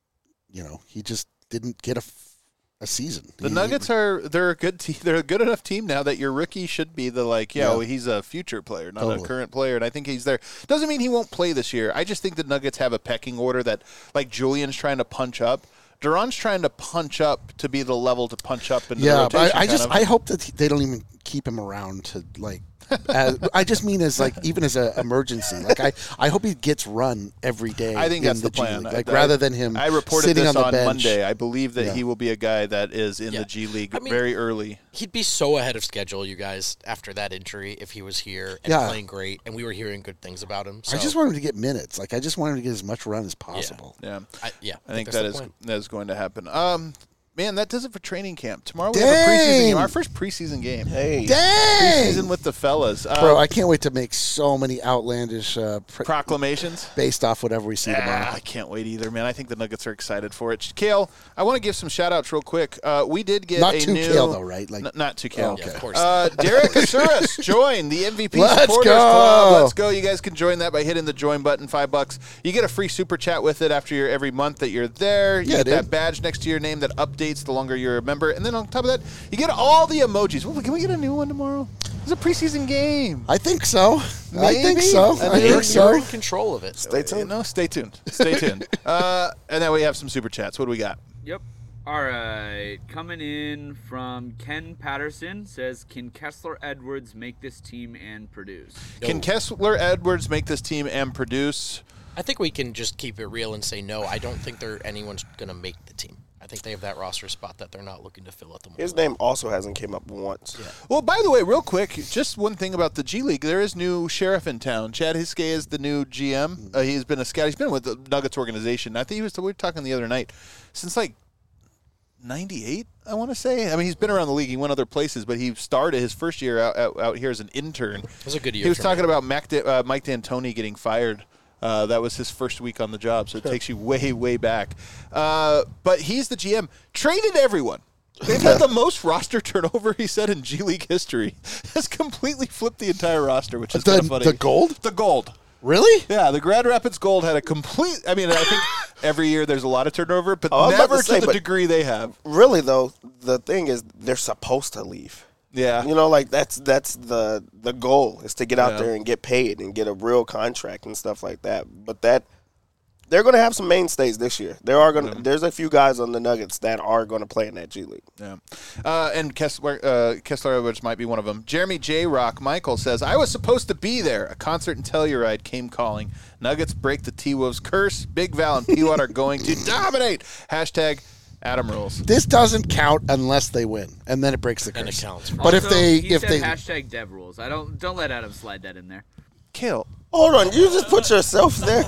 S2: you know he just didn't get a. f- A season.
S1: The
S2: He-
S1: Nuggets are they're a good team. They're a good enough team now that your rookie should be the like, yeah,
S2: Yeah.
S1: well, he's a future player, not
S2: Totally.
S1: a current player, and I think he's there. Doesn't mean he won't play this year. I just think the Nuggets have a pecking order that like Julian's trying to punch up. Duran's trying to punch up to be the level to punch up into the
S2: Yeah,
S1: rotation.
S2: but I, I
S1: kind
S2: just
S1: of.
S2: I hope that they don't even keep him around to like. As, I just mean as like even as an emergency. Like I, I hope he gets run every day.
S1: I think
S2: in
S1: that's the
S2: G
S1: plan.
S2: League. Like
S1: I-
S2: rather than him.
S1: I reported
S2: sitting
S1: this
S2: on, the
S1: on
S2: bench.
S1: Monday. I believe that
S2: Yeah.
S1: he will be a guy that is in
S3: Yeah.
S1: the G League
S3: I mean-
S1: very early.
S3: He'd be so ahead of schedule, you guys, after that injury if he was here and
S2: Yeah.
S3: playing great, and we were hearing good things about him. So,
S2: I just want him to get minutes. Like I just want him to get as much run as possible.
S1: Yeah.
S3: I, yeah,
S1: I think
S3: that's
S1: that
S3: the
S1: is
S3: plan.
S1: that is going to happen. Um, man, that does it for training camp. Tomorrow we have a preseason
S2: Dang!
S1: game. Our first preseason game.
S4: Hey,
S2: Dang,
S1: Preseason with the fellas. Uh,
S2: bro! I can't wait to make so many outlandish uh, pr-
S1: proclamations.
S2: based off whatever we see
S1: Ah,
S2: tomorrow.
S1: I can't wait either, man. I think the Nuggets are excited for it. Kale, I want to give some shout-outs real quick. Uh, we did get
S2: Not
S1: a
S2: too
S1: new...
S2: Kale though, right? Like
S1: N- not too Kale.
S2: Oh, okay.
S3: Yeah, of course.
S1: Uh, Derek Asuris joined the M V P
S2: Let's
S1: Supporters
S2: go.
S1: Club. Let's go. You guys can join that by hitting the join button, five bucks. You get a free super chat with it after your every month that you're there. You
S2: Yeah,
S1: get
S2: dude.
S1: that badge next to your name that updates the longer you're a member. And then on top of that, you get all the emojis. Well, can we get a new one tomorrow? It's a preseason game.
S2: I think so. I
S1: Maybe?
S2: think so.
S1: I
S2: I,
S1: think
S2: think
S3: You're,
S2: so.
S3: you're in control of it.
S4: stay tuned.
S1: No, stay tuned. Stay tuned. Uh, and then we have some super chats. What do we got?
S5: Yep. All right. Coming in from Ken Patterson says, "Can Kessler Edwards make this team and produce?"
S1: Can Kessler Edwards make this team and produce?
S3: I think we can just keep it real and say no. I don't think they're anyone's going to make the team. I think they have that roster spot that they're not looking to fill at the moment.
S4: His name also hasn't came up once.
S1: Well, by the way, real quick, just one thing about the G League. There is new sheriff in town. Chad Hiskey is the new G M. Uh, he's been a scout. He's been with the Nuggets organization. I think he was. We were talking the other night since like ninety-eight. I want to say. I mean, he's been around the league. He went other places, but he started his first year out out, out here as an intern.
S3: It was a good year.
S1: He was
S3: for
S1: talking
S3: him.
S1: about Mac Da- uh, Mike D'Antoni getting fired. Uh, that was his first week on the job, so it takes you way, way back. Uh, but he's the G M. Traded everyone. They've had the most roster turnover, he said, in G League history. Has completely flipped the entire roster, which is kind of
S2: The,
S1: funny.
S2: the gold?
S1: The gold.
S2: Really?
S1: Yeah, the Grand Rapids Gold had a complete. I mean, I think every year there's a lot of turnover, but
S4: Oh, I was about
S1: never
S4: to
S1: to,
S4: say,
S1: the
S4: but-
S1: degree they have.
S4: Really though, the thing is they're supposed to leave.
S1: Yeah.
S4: You know, like that's that's the the goal is to get out
S1: Yeah.
S4: there and get paid and get a real contract and stuff like that. But that they're going to have some mainstays this year. There are going to there's a few guys on the Nuggets that are going to play in that G League.
S1: Yeah, uh, and Kessler, uh, Kessler Edwards might be one of them. Jeremy J. Rock Michael says, I was supposed to be there. A concert in Telluride came calling. Nuggets break the T-Wolves curse. Big Val and P-Watt are going to dominate. Hashtag Adam rules.
S2: This doesn't count unless they win, and then it breaks the curse.
S3: And it counts.
S2: But if
S5: Also,
S2: they,
S5: he
S2: if
S5: said
S2: they,
S5: hashtag Dev rules. I don't don't let Adam slide that in there.
S1: Kill.
S4: Hold on, you just put yourself there.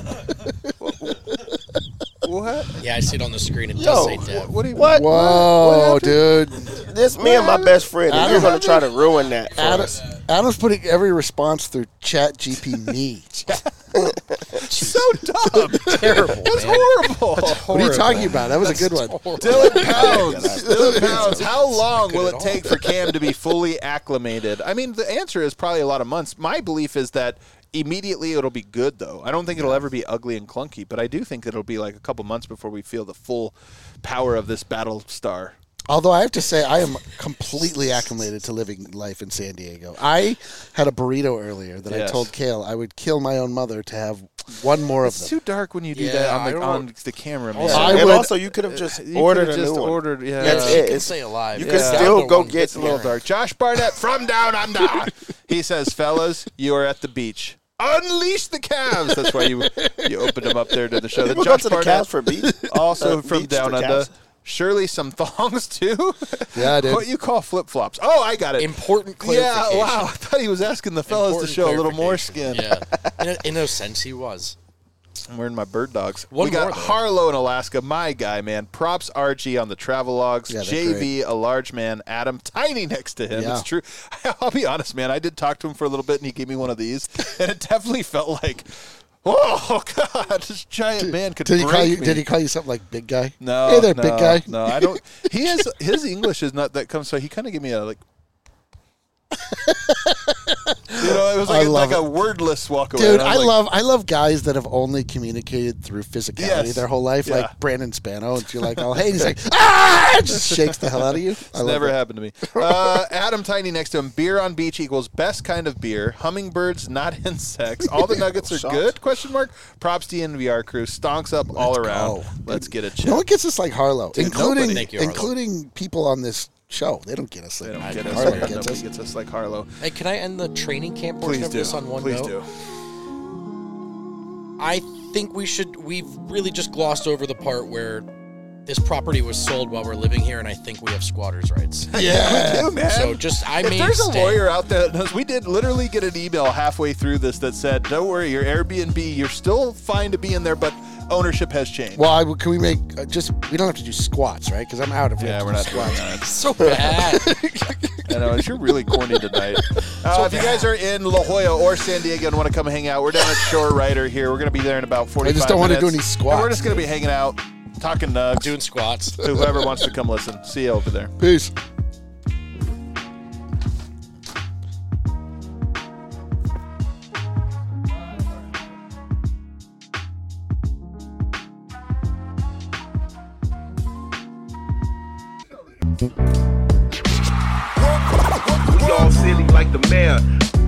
S1: What?
S3: Yeah, I see it on the screen. It
S4: Yo,
S3: does say Dev.
S1: What do you
S4: What?
S2: whoa, dude,
S4: This me and my best friend, and you're going to try to ruin that for
S2: Adam,
S4: us.
S2: Adam's putting every response through Chat G P me.
S1: So dumb.
S3: Terrible,
S1: That's
S3: man.
S1: horrible.
S2: What are you talking about? That was a good one.
S1: Dylan Pounds. Dylan Pounds. How long will it take for Cam to be fully acclimated? I mean, the answer is probably a lot of months. My belief is that immediately it'll be good, though. I don't think it'll ever be ugly and clunky, but I do think it'll be like a couple months before we feel the full power of this battle star.
S2: Although I have to say, I am completely acclimated to living life in San Diego. I had a burrito earlier that
S1: Yes.
S2: I told Kale I would kill my own mother to have one more of
S1: It's
S2: them.
S1: too dark when you do
S3: Yeah,
S1: that
S3: I
S1: on the,
S3: don't-
S1: on the camera, man.
S3: Also-
S2: I
S4: and
S2: would-
S4: also, you could have just
S1: You
S4: ordered
S1: could've
S4: a
S1: just
S4: new one.
S1: ordered, yeah.
S4: That's
S3: You
S4: it.
S3: can
S4: It's-
S3: say alive.
S4: you
S1: could
S3: Down
S4: still
S3: to
S4: go
S3: one
S4: get-
S1: It's a little dark. Josh Barnett from Down Under. He says, fellas, you are at the beach. Unleash the Cavs. That's why you you opened him up there to the show.
S4: People
S1: Josh
S4: go to the
S1: Barnett,
S4: Cavs for beach.
S1: also
S4: uh,
S1: from
S4: beach
S1: Down
S4: to
S1: Under.
S4: Cavs.
S1: Surely some thongs too.
S2: Yeah, I did.
S1: What you call flip flops? Oh, I got it.
S3: Important
S1: Yeah,
S3: clarification.
S1: wow. I thought he was asking the fellas
S3: Important
S1: to show a little more
S3: clarification.
S1: skin.
S3: Yeah. In a, in a sense, he was.
S1: I'm wearing my bird dogs.
S3: One
S1: we got
S3: more, though.
S1: Harlow in Alaska, my guy, man. Props R G on the travel logs.
S2: Yeah, they're
S1: J V, a large man. Adam, tiny next to him.
S2: Yeah.
S1: It's true. I'll be honest, man. I did talk to him for a little bit, and he gave me one of these, and it definitely felt like, oh God, this giant man could
S2: Did he
S1: break
S2: call you?
S1: me.
S2: Did he call you something like big guy?
S1: No.
S2: Hey there,
S1: no,
S2: big guy.
S1: No, I don't. He has his English is not that comes. So he kind of gave me a like. You know, it was
S2: I
S1: like, a,
S2: love
S1: like a
S2: it.
S1: wordless walk away.
S2: Dude,
S1: and
S2: I
S1: was like,
S2: love I love guys that have only communicated through physicality
S1: Yes.
S2: their whole life,
S1: Yeah.
S2: like Brandon Spano. And you're like, oh, hey, and he's like, ah, just shakes the hell out of you. I
S1: It's
S2: love
S1: never
S2: it.
S1: happened to me. Uh, Adam Tiny next to him. Beer on beach equals best kind of beer. Hummingbirds, not insects. All the nuggets are
S4: Shots.
S1: good? Question mark. Props to the N V R crew. Stonks up all
S2: Let's
S1: around.
S2: go.
S1: Let's get it.
S2: No one gets us like Harlow,
S1: Dude,
S2: including
S1: nobody.
S3: Thank you, Harlow.
S2: including people on this show. They don't get us like
S1: They don't
S3: I
S1: get
S3: know.
S1: us.
S2: Harlow
S1: Yeah,
S2: gets
S1: nobody
S2: us.
S1: gets us like Harlow.
S3: Hey, can I end the training camp portion
S1: Please
S3: of
S1: do.
S3: this on one
S1: Please
S3: note?
S1: do.
S3: I think we should. We've really just glossed over the part where this property was sold while we're living here, and I think we have squatters' rights.
S2: Yeah.
S1: We do, man.
S3: So just I
S1: if
S3: may
S1: there's a
S3: stay.
S1: lawyer out there that knows, we did literally get an email halfway through this that said, don't worry, your Airbnb, you're still fine to be in there, but ownership has changed.
S2: Well, I, can we make uh, just? We don't have to do squats, right? Because I'm out if we
S1: yeah,
S2: have to
S1: we're
S2: do
S1: not doing
S2: squats.
S1: that.
S3: So bad.
S1: I know, you're really corny tonight. Uh, if you guys are in La Jolla or San Diego and want to come hang out, we're down at Shore Rider here. We're going to be there in about forty-five
S2: I just don't want to
S1: minutes.
S2: do any squats.
S1: And we're just going to be hanging out, talking nugs
S3: Doing squats.
S1: to whoever wants to come listen. See you over there.
S2: Peace.
S6: We all silly like the mayor.